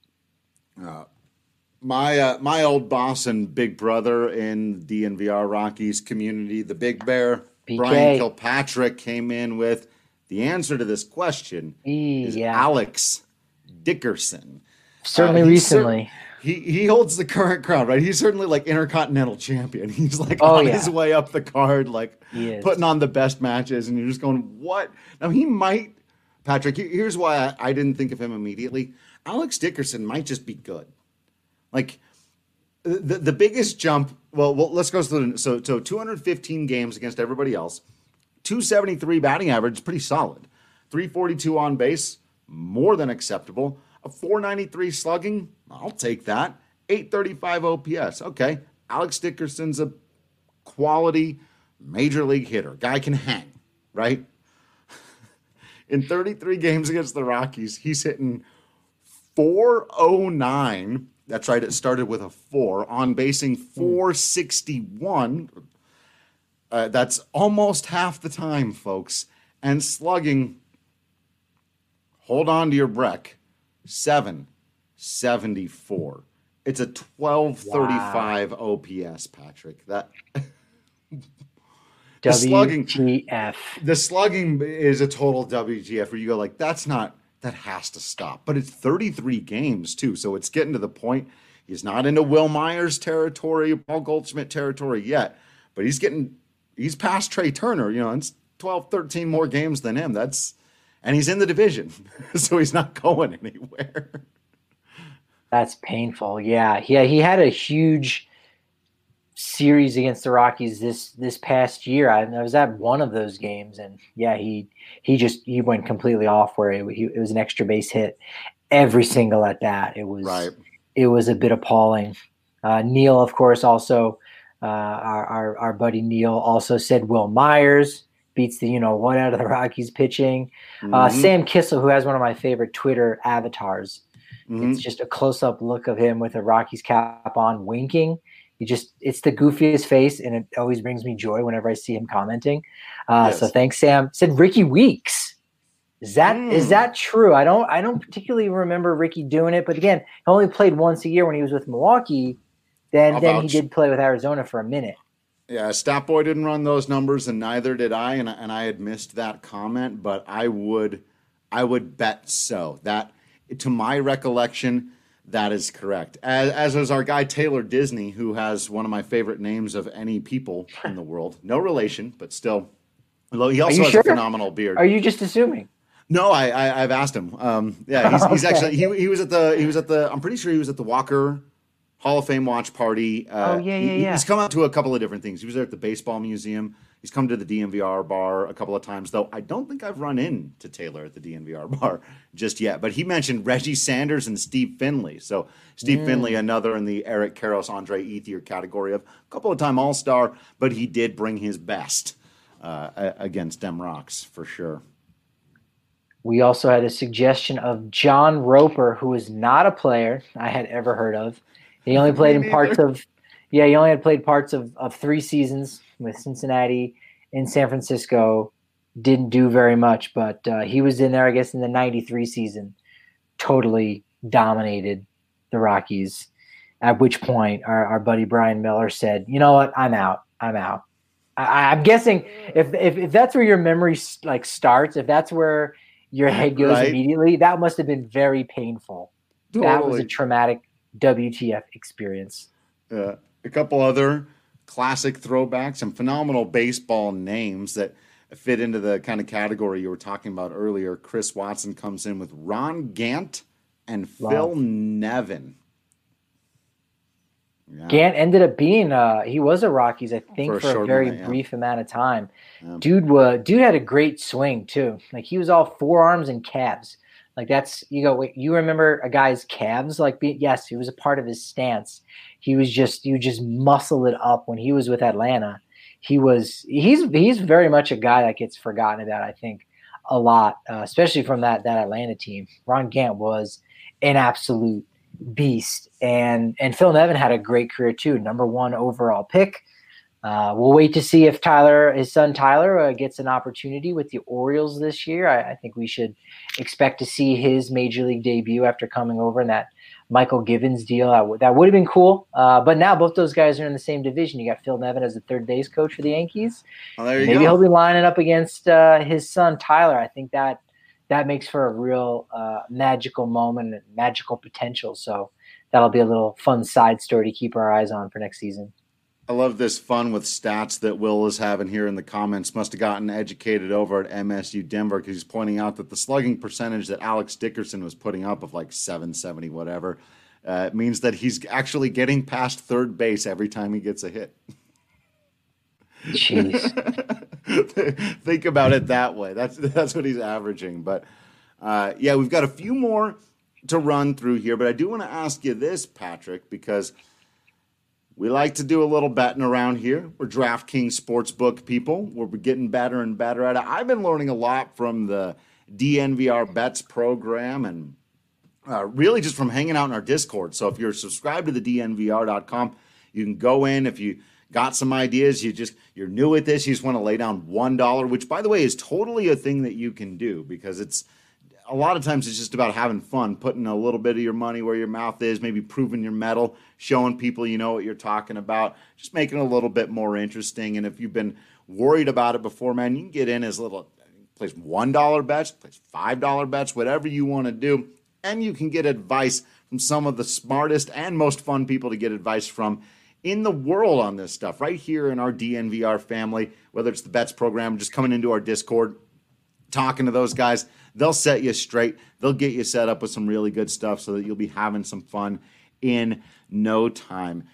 Uh, my uh, my old boss and big brother in D N V R Rockies community, the Big Bear, B K. Brian Kilpatrick, came in with the answer to this question e, is yeah. Alex Dickerson. Certainly uh, recently. Cer- he he holds the current crown, right? He's certainly like intercontinental champion. He's like oh, on yeah. his way up the card, like putting on the best matches, and you're just going, what? Now he might, Patrick, here's why I, I didn't think of him immediately. Alex Dickerson might just be good. Like the the biggest jump, well, well let's go through so so two hundred fifteen games against everybody else. two seventy-three batting average, pretty solid. three forty-two on base, more than acceptable. A four ninety-three slugging, I'll take that. eight thirty-five O P S, okay. Alex Dickerson's a quality major league hitter. Guy can hang, right? In thirty-three games against the Rockies, he's hitting four oh nine. That's right, it started with a four. On basing four sixty-one. Uh, that's almost half the time, folks. And slugging, hold on to your breath, seven seventy-four. It's a twelve thirty-five wow. O P S, Patrick. That the slugging, W T F. The slugging is a total W T F where you go like, that's not, that has to stop. But it's thirty-three games too, so it's getting to the point. He's not into Will Myers territory, Paul Goldschmidt territory yet, but he's getting, he's past Trey Turner. You know, it's twelve, thirteen more games than him. That's, and he's in the division, so he's not going anywhere. That's painful. Yeah, yeah. He had a huge series against the Rockies this this past year. I, I was at one of those games, and yeah, he he just he went completely off where it, he, it was an extra base hit every single at bat. It was right. It was a bit appalling. Uh, Neil, of course, also uh, our, our our buddy Neil also said Will Myers beats the you know what out of the Rockies pitching. Mm-hmm. Uh, Sam Kissel, who has one of my favorite Twitter avatars. Mm-hmm. It's just a close-up look of him with a Rockies cap on, winking. He just, it's the goofiest face, and it always brings me joy whenever I see him commenting. Uh, yes. So thanks, Sam. Said Ricky Weeks. Is that mm. is that true? I don't I don't particularly remember Ricky doing it, but again, he only played once a year when he was with Milwaukee. Then then he did play with Arizona for a minute. Yeah, Statboy didn't run those numbers, and neither did I, and and I had missed that comment, but I would I would bet so. That, to my recollection, that is correct. As, as is our guy Taylor Disney, who has one of my favorite names of any people in the world. No relation, but still. He also has sure? a phenomenal beard. Are you just assuming? No, I, I I've asked him. Um, yeah, he's, he's okay. actually he he was at the he was at the I'm pretty sure he was at the Walker Hall of Fame watch party. Uh, oh yeah, yeah, yeah. He, he's come out to a couple of different things. He was there at the baseball museum. He's come to the D N V R bar a couple of times, though I don't think I've run into Taylor at the D N V R bar just yet. But he mentioned Reggie Sanders and Steve Finley. So Steve mm. Finley, another in the Eric Karros, Andre Ethier category of a couple of time All-Star, but he did bring his best uh, against them Rocks for sure. We also had a suggestion of John Roper, who is not a player I had ever heard of. He only played in parts of Yeah, he only had played parts of, of three seasons with Cincinnati in San Francisco. Didn't do very much, but uh, he was in there, I guess, in the ninety-three season. Totally dominated the Rockies, at which point our, our buddy Brian Miller said, you know what, I'm out. I'm out. I, I'm guessing if, if if that's where your memory like starts, if that's where your head goes right. immediately, that must have been very painful. Totally. That was a traumatic W T F experience. Yeah. A couple other classic throwbacks, some phenomenal baseball names that fit into the kind of category you were talking about earlier. Chris Watson comes in with Ron Gant and wow. Phil Nevin. Yeah. Gant ended up being uh he was a Rockies, I think, for a, for a very minute, yeah. brief amount of time. Yeah. Dude was dude had a great swing too. Like he was all forearms and calves. Like that's you go. Wait, you remember a guy's calves? Like be, yes, he was a part of his stance. He was just you just muscle it up when he was with Atlanta. He was he's he's very much a guy that gets forgotten about. I think a lot, uh, especially from that that Atlanta team. Ron Gant was an absolute beast, and and Phil Nevin had a great career too. Number one overall pick. Uh, we'll wait to see if Tyler, his son Tyler, uh, gets an opportunity with the Orioles this year. I, I think we should expect to see his major league debut after coming over in that Michael Givens deal. That, w- that would have been cool. Uh, but now both those guys are in the same division. You got Phil Nevin as the third base coach for the Yankees. Well, there you Maybe go. he'll be lining up against uh, his son Tyler. I think that that makes for a real uh, magical moment and magical potential. So that'll be a little fun side story to keep our eyes on for next season. I love this fun with stats that Will is having here in the comments. Must have gotten educated over at M S U Denver because he's pointing out that the slugging percentage that Alex Dickerson was putting up of like seven seventy whatever uh, means that he's actually getting past third base every time he gets a hit. Jeez. Think about it that way. That's that's what he's averaging. But uh, yeah, we've got a few more to run through here. But I do want to ask you this, Patrick, because we like to do a little betting around here. We're DraftKings Sportsbook people. We're getting better and better at it. I've been learning a lot from the D N V R Bets program and uh, really just from hanging out in our Discord. So if you're subscribed to the D N V R dot com, you can go in. If you got some ideas, you just, you're new at this, you just want to lay down one dollar, which, by the way, is totally a thing that you can do because it's a lot of times it's just about having fun, putting a little bit of your money where your mouth is, maybe proving your mettle, showing people you know what you're talking about, just making it a little bit more interesting. And if you've been worried about it before, man, you can get in as little, place one dollar bets, place five dollar bets, whatever you want to do. And you can get advice from some of the smartest and most fun people to get advice from in the world on this stuff, right here in our D N V R family, whether it's the Bets program, just coming into our Discord, talking to those guys. They'll set you straight. They'll get you set up with some really good stuff so that you'll be having some fun in no time.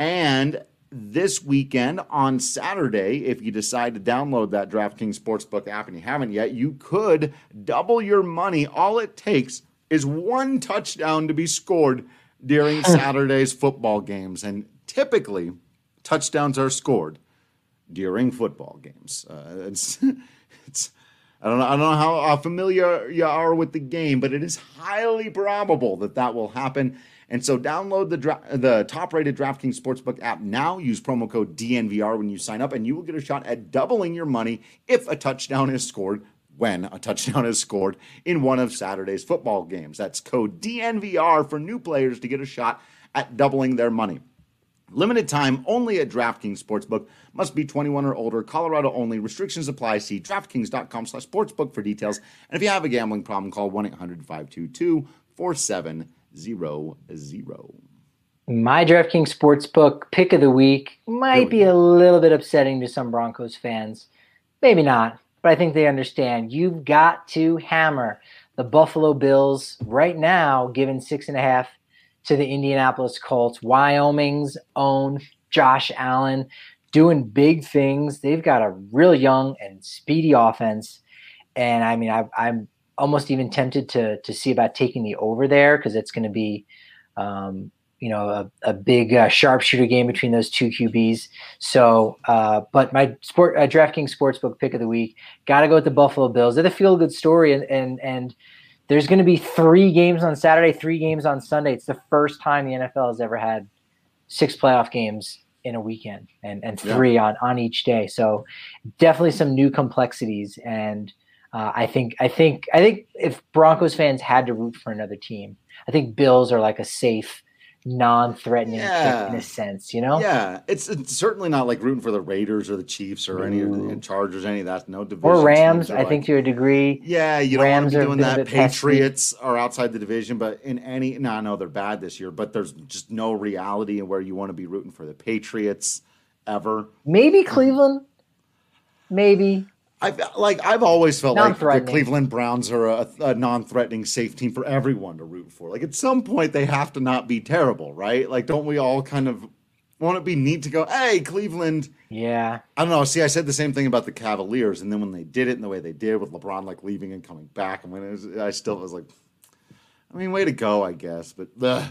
And this weekend on Saturday, if you decide to download that DraftKings Sportsbook app and you haven't yet, you could double your money. All it takes is one touchdown to be scored during Saturday's football games. And typically, touchdowns are scored during football games. Uh, it's it's I don't know. I don't know how uh, familiar you are with the game, but it is highly probable that that will happen. And so, download the dra- the top-rated DraftKings Sportsbook app now. Use promo code D N V R when you sign up, and you will get a shot at doubling your money if a touchdown is scored. When a touchdown is scored in one of Saturday's football games. That's code D N V R for new players to get a shot at doubling their money. Limited time only at DraftKings Sportsbook. Must be twenty-one or older. Colorado only. Restrictions apply. See DraftKings.com slash sportsbook for details. And if you have a gambling problem, call one eight hundred five two two four seven zero zero. My DraftKings Sportsbook pick of the week might be a little bit upsetting to some Broncos fans. Maybe not, but I think they understand. You've got to hammer the Buffalo Bills right now, given six and a half to the Indianapolis Colts. Wyoming's own Josh Allen doing big things. They've got a real young and speedy offense. And I mean, I, I'm almost even tempted to to see about taking the over there because it's going to be, um, you know, a, a big uh, sharpshooter game between those two Q Bs. So, uh, but my sport uh, DraftKings Sportsbook pick of the week, got to go with the Buffalo Bills. They're the feel-good story, and and and there's going to be three games on Saturday, three games on Sunday. It's the first time the N F L has ever had six playoff games in a weekend and, and three yeah. on, on each day. So definitely some new complexities. And uh, I think, I think, I think if Broncos fans had to root for another team, I think Bills are like a safe, non-threatening yeah. in a sense, you know? Yeah. It's, it's certainly not like rooting for the Raiders or the Chiefs or any of the Chargers, any of that. No division. Or Rams, I like, think to a degree. Yeah. You don't Rams want to be doing that. Patriots pesky. Are outside the division, but in any, no, I know they're bad this year, but there's just no reality in where you want to be rooting for the Patriots ever. Maybe Cleveland. Maybe. I've like I've always felt like the Cleveland Browns are a, a non-threatening, safe team for everyone to root for. Like at some point they have to not be terrible, right? Like don't we all kind of want it be neat to go, hey, Cleveland? Yeah. I don't know. See, I said the same thing about the Cavaliers, and then when they did it in the way they did with LeBron like leaving and coming back, I mean, it was, I still was like, I mean, way to go, I guess. But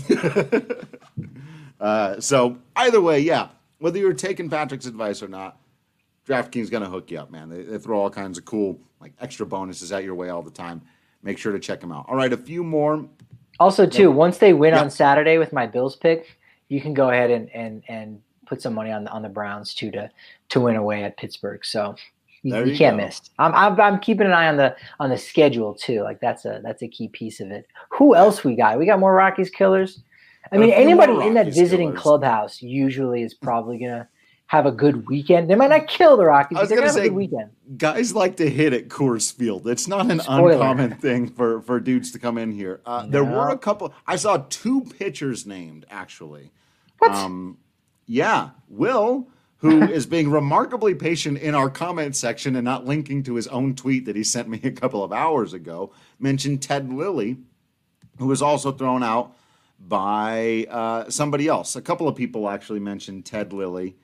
uh, so either way, yeah. Whether you're taking Patrick's advice or not, DraftKings is going to hook you up, man. They, they throw all kinds of cool, like extra bonuses out your way all the time. Make sure to check them out. All right, a few more. Also, too, once they win yeah. on Saturday with my Bills pick, you can go ahead and and and put some money on the on the Browns too to to win away at Pittsburgh. So you, you, you can't go. miss. I'm, I'm I'm keeping an eye on the on the schedule too. Like that's a that's a key piece of it. Who else we got? We got more Rockies killers. I mean, anybody in that visiting killers. clubhouse usually is probably gonna have a good weekend. They might not kill the Rockies, but they're going to have a good weekend. Guys like to hit at Coors Field. It's not an Spoiler. uncommon thing for, for dudes to come in here. Uh, no. There were a couple. I saw two pitchers named, actually. What? Um, yeah. Will, who is being remarkably patient in our comment section and not linking to his own tweet that he sent me a couple of hours ago, mentioned Ted Lilly, who was also thrown out by uh, somebody else. A couple of people actually mentioned Ted Lilly.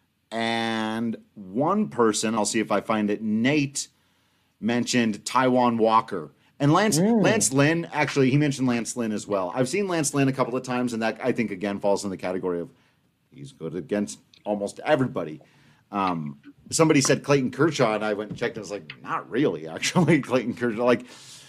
And one person, I'll see if I find it, Nate mentioned Taijuan Walker. And Lance mm. Lance Lynn, actually, he mentioned Lance Lynn as well. I've seen Lance Lynn a couple of times, and that, I think, again, falls in the category of he's good against almost everybody. Um, somebody said Clayton Kershaw, and I went and checked, and I was like, not really, actually. Clayton Kershaw, like,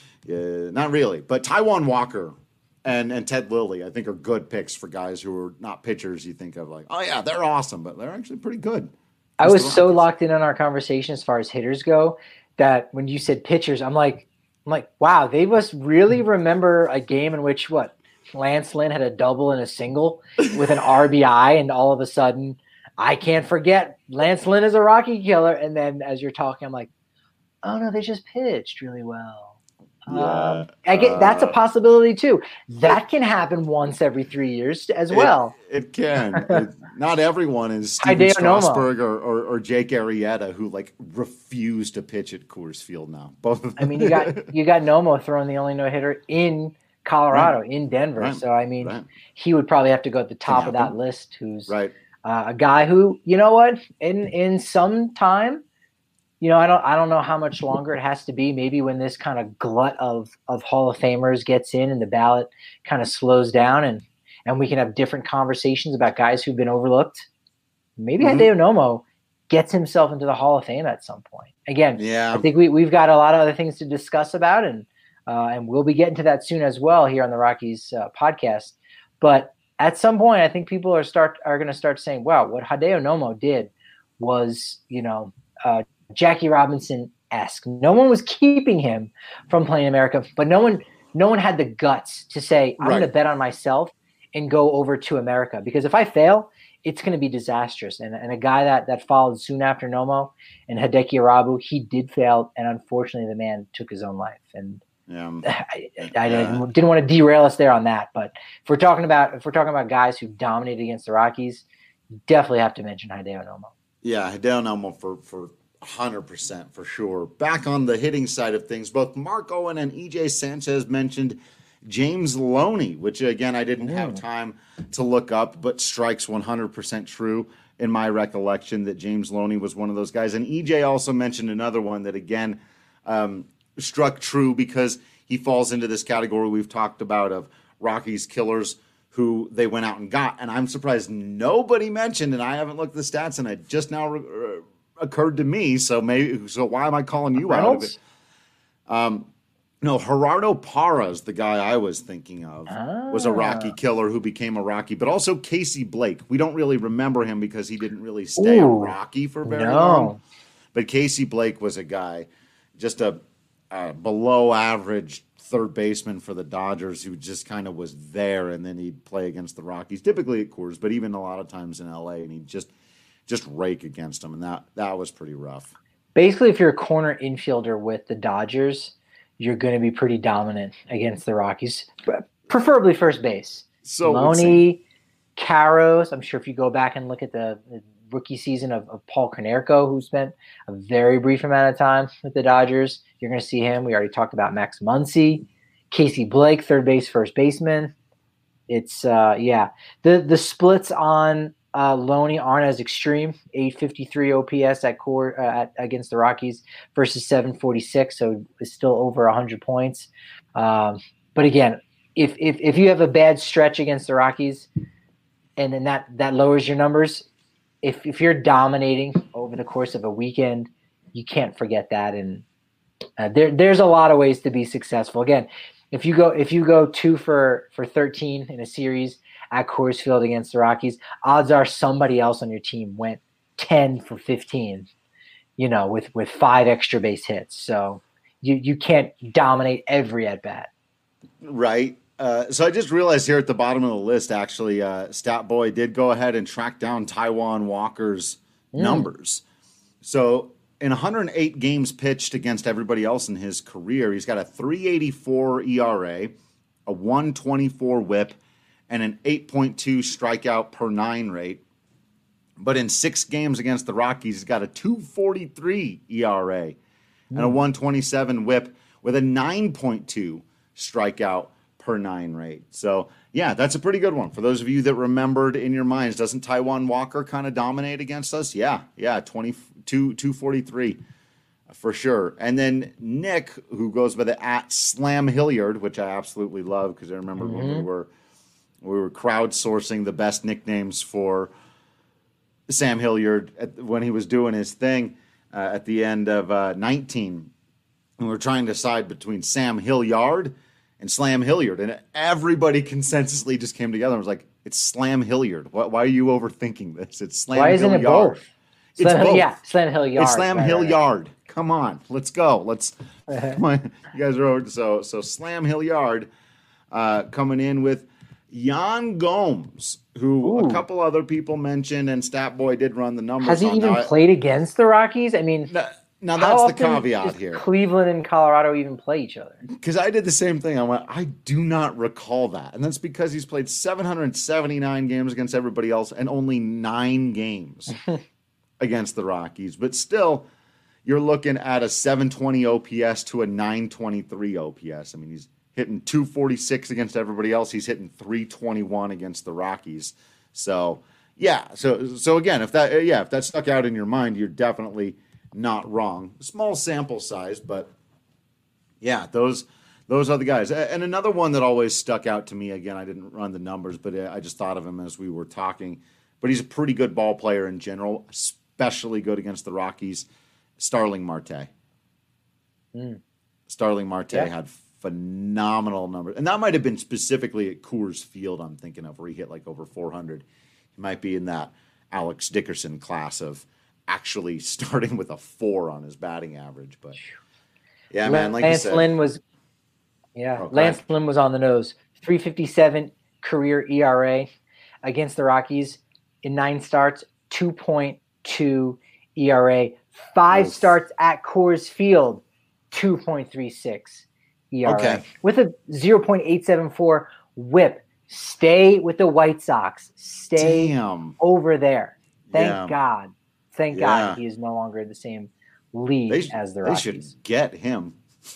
uh, not really. But Taijuan Walker and and Ted Lilly, I think, are good picks for guys who are not pitchers. You think of like, oh yeah, they're awesome, but they're actually pretty good. I was so locked in on our conversation as far as hitters go that when you said pitchers, I'm like, I'm like, wow, they must really remember a game in which what Lance Lynn had a double and a single with an R B I, and all of a sudden, I can't forget Lance Lynn is a Rocky killer. And then as you're talking, I'm like, oh no, they just pitched really well. Yeah, um, I get that's a possibility too. That can happen once every three years as well. It, it can. it, not everyone is Steven Strasburg or, or, or Jake Arrieta, who like refuse to pitch at Coors Field now. Both of them. I mean, you got you got Nomo throwing the only no hitter in Colorado, right. in Denver. Right. So I mean, right. he would probably have to go at the top of that list. Who's right. uh, a guy who, you know what, in in some time. You know, I don't I don't know how much longer it has to be. Maybe when this kind of glut of of Hall of Famers gets in and the ballot kind of slows down and and we can have different conversations about guys who've been overlooked. Maybe mm-hmm. Hideo Nomo gets himself into the Hall of Fame at some point. Again, yeah. I think we, we've got a lot of other things to discuss about, and uh, and we'll be getting to that soon as well here on the Rockies uh, podcast. But at some point, I think people are start are going to start saying, wow, what Hideo Nomo did was, you know, uh, Jackie Robinson-esque. No one was keeping him from playing America, but no one no one had the guts to say, I'm right. going to bet on myself and go over to America. Because if I fail, it's going to be disastrous. And, and a guy that, that followed soon after Nomo and Hideki Arabu, he did fail, and unfortunately the man took his own life. And yeah. I, I, I yeah. didn't want to derail us there on that. But if we're talking about if we're talking about guys who dominated against the Rockies, you definitely have to mention Hideo Nomo. Yeah, Hideo Nomo for for – one hundred percent for sure. Back on the hitting side of things, both Mark Owen and E J Sanchez mentioned James Loney, which, again, I didn't have time to look up, but strikes one hundred percent true in my recollection that James Loney was one of those guys. And E J also mentioned another one that, again, um, struck true because he falls into this category we've talked about of Rockies killers who they went out and got. And I'm surprised nobody mentioned, and I haven't looked at the stats, and I just now re- occurred to me, so maybe so why am I calling you Reynolds? out of it? Um, No, Gerardo Parra's the guy I was thinking of. Ah. Was a Rocky killer who became a Rocky, but also Casey Blake. We don't really remember him because he didn't really stay Ooh, a Rocky for very no. long. But Casey Blake was a guy, just a, a below average third baseman for the Dodgers who just kind of was there, and then he'd play against the Rockies, typically at Coors, but even a lot of times in L A, and he'd just just rake against them, and that that was pretty rough. Basically, if you're a corner infielder with the Dodgers, you're going to be pretty dominant against the Rockies, preferably first base. So Loney, Caros. I'm sure if you go back and look at the, the rookie season of, of Paul Konerko, who spent a very brief amount of time with the Dodgers, you're going to see him. We already talked about Max Muncy, Casey Blake, third base, first baseman. It's uh, yeah, the the splits on uh, Loney aren't as extreme. eight fifty-three O P S at core uh, at, against the Rockies versus seven forty-six, so it's still over one hundred points. Um, but again, if if if you have a bad stretch against the Rockies, and then that that lowers your numbers. If if you're dominating over the course of a weekend, you can't forget that. And uh, there there's a lot of ways to be successful. Again, if you go if you go two for for thirteen in a series at Coors Field against the Rockies, odds are somebody else on your team went ten for fifteen, you know, with, with five extra base hits. So you, you can't dominate every at bat. Right. Uh, so I just realized here at the bottom of the list, actually, uh, Stat Boy did go ahead and track down Taijuan Walker's mm. numbers. So in one hundred eight games pitched against everybody else in his career, he's got a three eighty-four E R A, a one twenty-four whip, and an eight point two strikeout per nine rate. But in six games against the Rockies, he's got a two forty-three E R A and a one twenty-seven whip with a nine point two strikeout per nine rate. So, yeah, that's a pretty good one. For those of you that remembered in your minds, doesn't Taijuan Walker kind of dominate against us? Yeah, yeah, twenty-two, two forty-three for sure. And then Nick, who goes by the at Slam Hilliard, which I absolutely love because I remember mm-hmm. when we were we were crowdsourcing the best nicknames for Sam Hilliard at, when he was doing his thing uh, at the end of uh, nineteen. And we were trying to decide between Sam Hilliard and Slam Hilliard. And everybody consensusly just came together and was like, it's Slam Hilliard. Why, why are you overthinking this? It's Slam Why Hilliard. Isn't it both? It's Slam, both. Yeah, Slam Hilliard. It's Slam right, Hilliard. Right. Come on, let's go. Let's. Come on. You guys are over. So, so Slam Hilliard uh, coming in with Yan Gomes, who Ooh. a couple other people mentioned, and Stat Boy did run the numbers. Has he on even that. played against the Rockies? I mean, now, now that's the caveat here. Cleveland and Colorado even play each other? Because I did the same thing. I went, I do not recall that, and that's because he's played seven hundred seventy-nine games against everybody else and only nine games against the Rockies. But still, you're looking at a seven twenty O P S to a nine twenty-three O P S. I mean, he's hitting two forty-six against everybody else. He's hitting three twenty-one against the Rockies. So, yeah. So, so again, if that, yeah, if that stuck out in your mind, you're definitely not wrong. Small sample size, but yeah, those, those are the guys. And another one that always stuck out to me, again, I didn't run the numbers, but I just thought of him as we were talking, but he's a pretty good ball player in general, especially good against the Rockies. Starling Marte. Mm. Starling Marte yeah. had phenomenal numbers. And that might have been specifically at Coors Field, I'm thinking of, where he hit like over four hundred. He might be in that Alex Dickerson class of actually starting with a four on his batting average. But yeah, Lance man, like you said. Lynn was, yeah, oh, Lance Lynn was on the nose. three fifty-seven career E R A against the Rockies in nine starts, two point two E R A. Five Oof. starts at Coors Field, two point three six E R A. Okay. With a zero point eight seven four whip. Stay with the White Sox. Stay Damn. over there. Thank yeah. God. Thank yeah. God he is no longer in the same league they sh- as the Rockies. They should get him.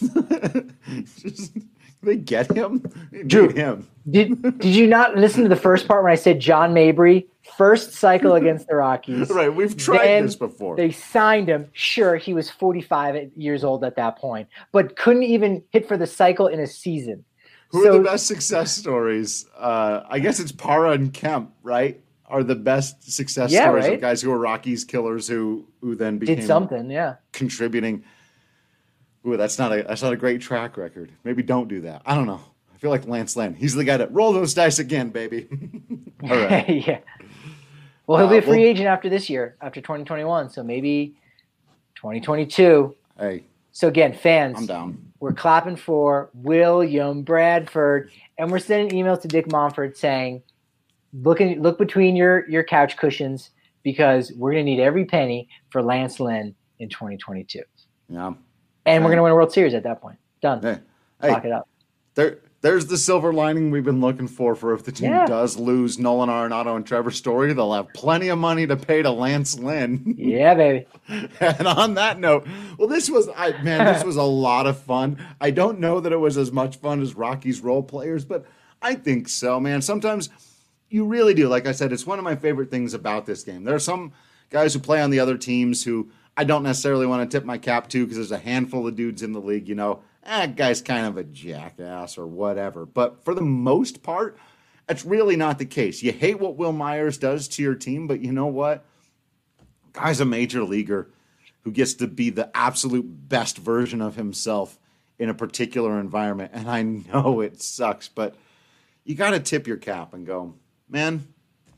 Just, they get him? They Drew, him. did, did you not listen to the first part when I said John Mabry, first cycle against the Rockies? Right, we've tried then this before. They signed him. Sure, he was forty-five years old at that point, but couldn't even hit for the cycle in a season. Who so, are the best success stories? Uh, I guess it's Parra and Kemp, right? Are the best success yeah, stories right? of guys who are Rockies killers who who then became did something, yeah, contributing. Ooh, that's not a that's not a great track record. Maybe don't do that. I don't know. I feel like Lance Lynn. He's the guy that roll those dice again, baby. All right. Yeah. Well, he'll be a free uh, well, agent after this year, after twenty twenty-one. So maybe twenty twenty-two. Hey. So again, fans, I'm down. We're clapping for William Bradford, and we're sending emails to Dick Monfort saying, "Look in, look between your your couch cushions because we're going to need every penny for Lance Lynn in twenty twenty-two." Yeah. And hey. we're going to win a World Series at that point. Done. Hey. Lock hey. it up. There, there's the silver lining we've been looking for. For if the team yeah. does lose Nolan Arenado and Trevor Story, they'll have plenty of money to pay to Lance Lynn. Yeah, baby. And on that note, well, this was, I man, this was a lot of fun. I don't know that it was as much fun as Rockies role players, but I think so, man. Sometimes you really do. Like I said, it's one of my favorite things about this game. There are some guys who play on the other teams who I don't necessarily want to tip my cap to because there's a handful of dudes in the league, you know, that guy's kind of a jackass or whatever. But for the most part, that's really not the case. You hate what Will Myers does to your team, but you know what? Guy's a major leaguer who gets to be the absolute best version of himself in a particular environment. And I know it sucks, but you got to tip your cap and go, man,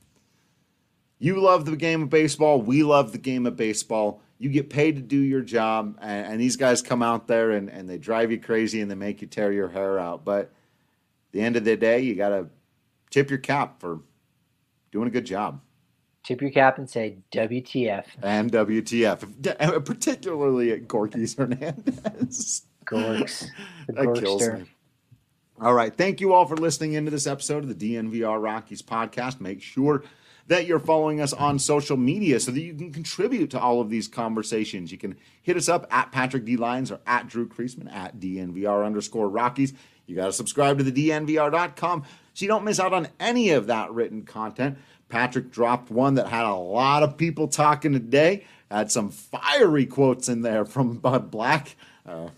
you love the game of baseball. We love the game of baseball. You get paid to do your job, and, and these guys come out there and, and they drive you crazy and they make you tear your hair out. But at the end of the day, you got to tip your cap for doing a good job. Tip your cap and say W T F. And W T F, particularly at Gorky's Hernandez. Gorks. The That kills me. All right. Thank you all for listening into this episode of the D N V R Rockies podcast. Make sure that you're following us on social media so that you can contribute to all of these conversations. You can hit us up at Patrick D. Lyons or at Drew Creasman at D N V R underscore Rockies. You got to subscribe to the D N V R dot com so you don't miss out on any of that written content. Patrick dropped one that had a lot of people talking today. Had some fiery quotes in there from Bud Black. Uh,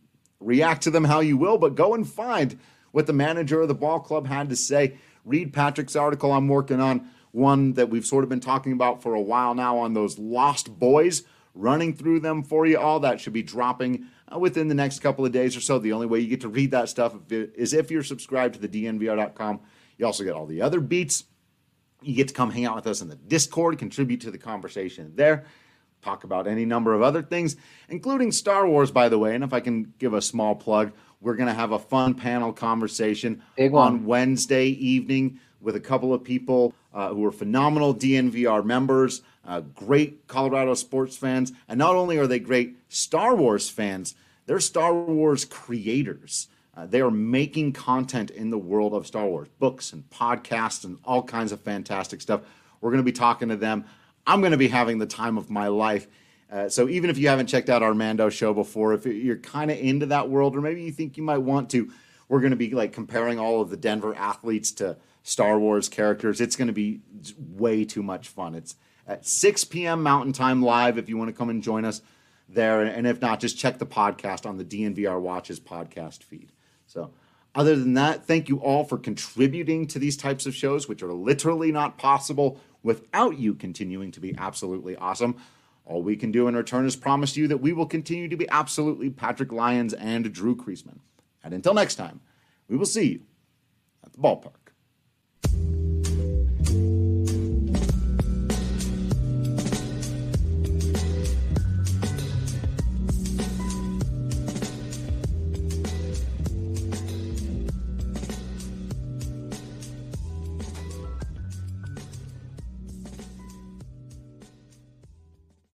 react to them how you will, but go and find what the manager of the ball club had to say. Read Patrick's article I'm working on, one that we've sort of been talking about for a while now on those lost boys, running through them for you. All that should be dropping uh, within the next couple of days or so. The only way you get to read that stuff is if you're subscribed to the D N V R dot com. You also get all the other beats. You get to come hang out with us in the Discord, contribute to the conversation there, talk about any number of other things, including Star Wars, by the way. And if I can give a small plug, we're going to have a fun panel conversation on Wednesday evening with a couple of people uh, who are phenomenal D N V R members, uh, great Colorado sports fans. And not only are they great Star Wars fans, they're Star Wars creators. Uh, they are making content in the world of Star Wars, books and podcasts and all kinds of fantastic stuff. We're going to be talking to them. I'm going to be having the time of my life. Uh, so even if you haven't checked out our Mando show before, if you're kind of into that world, or maybe you think you might want to, we're going to be like comparing all of the Denver athletes to Star Wars characters. It's going to be way too much fun. It's at six p.m. Mountain Time live if you want to come and join us there. And if not, just check the podcast on the D N V R Watches podcast feed. So other than that, thank you all for contributing to these types of shows, which are literally not possible without you continuing to be absolutely awesome. All we can do in return is promise you that we will continue to be absolutely Patrick Lyons and Drew Creasman. And until next time, we will see you at the ballpark.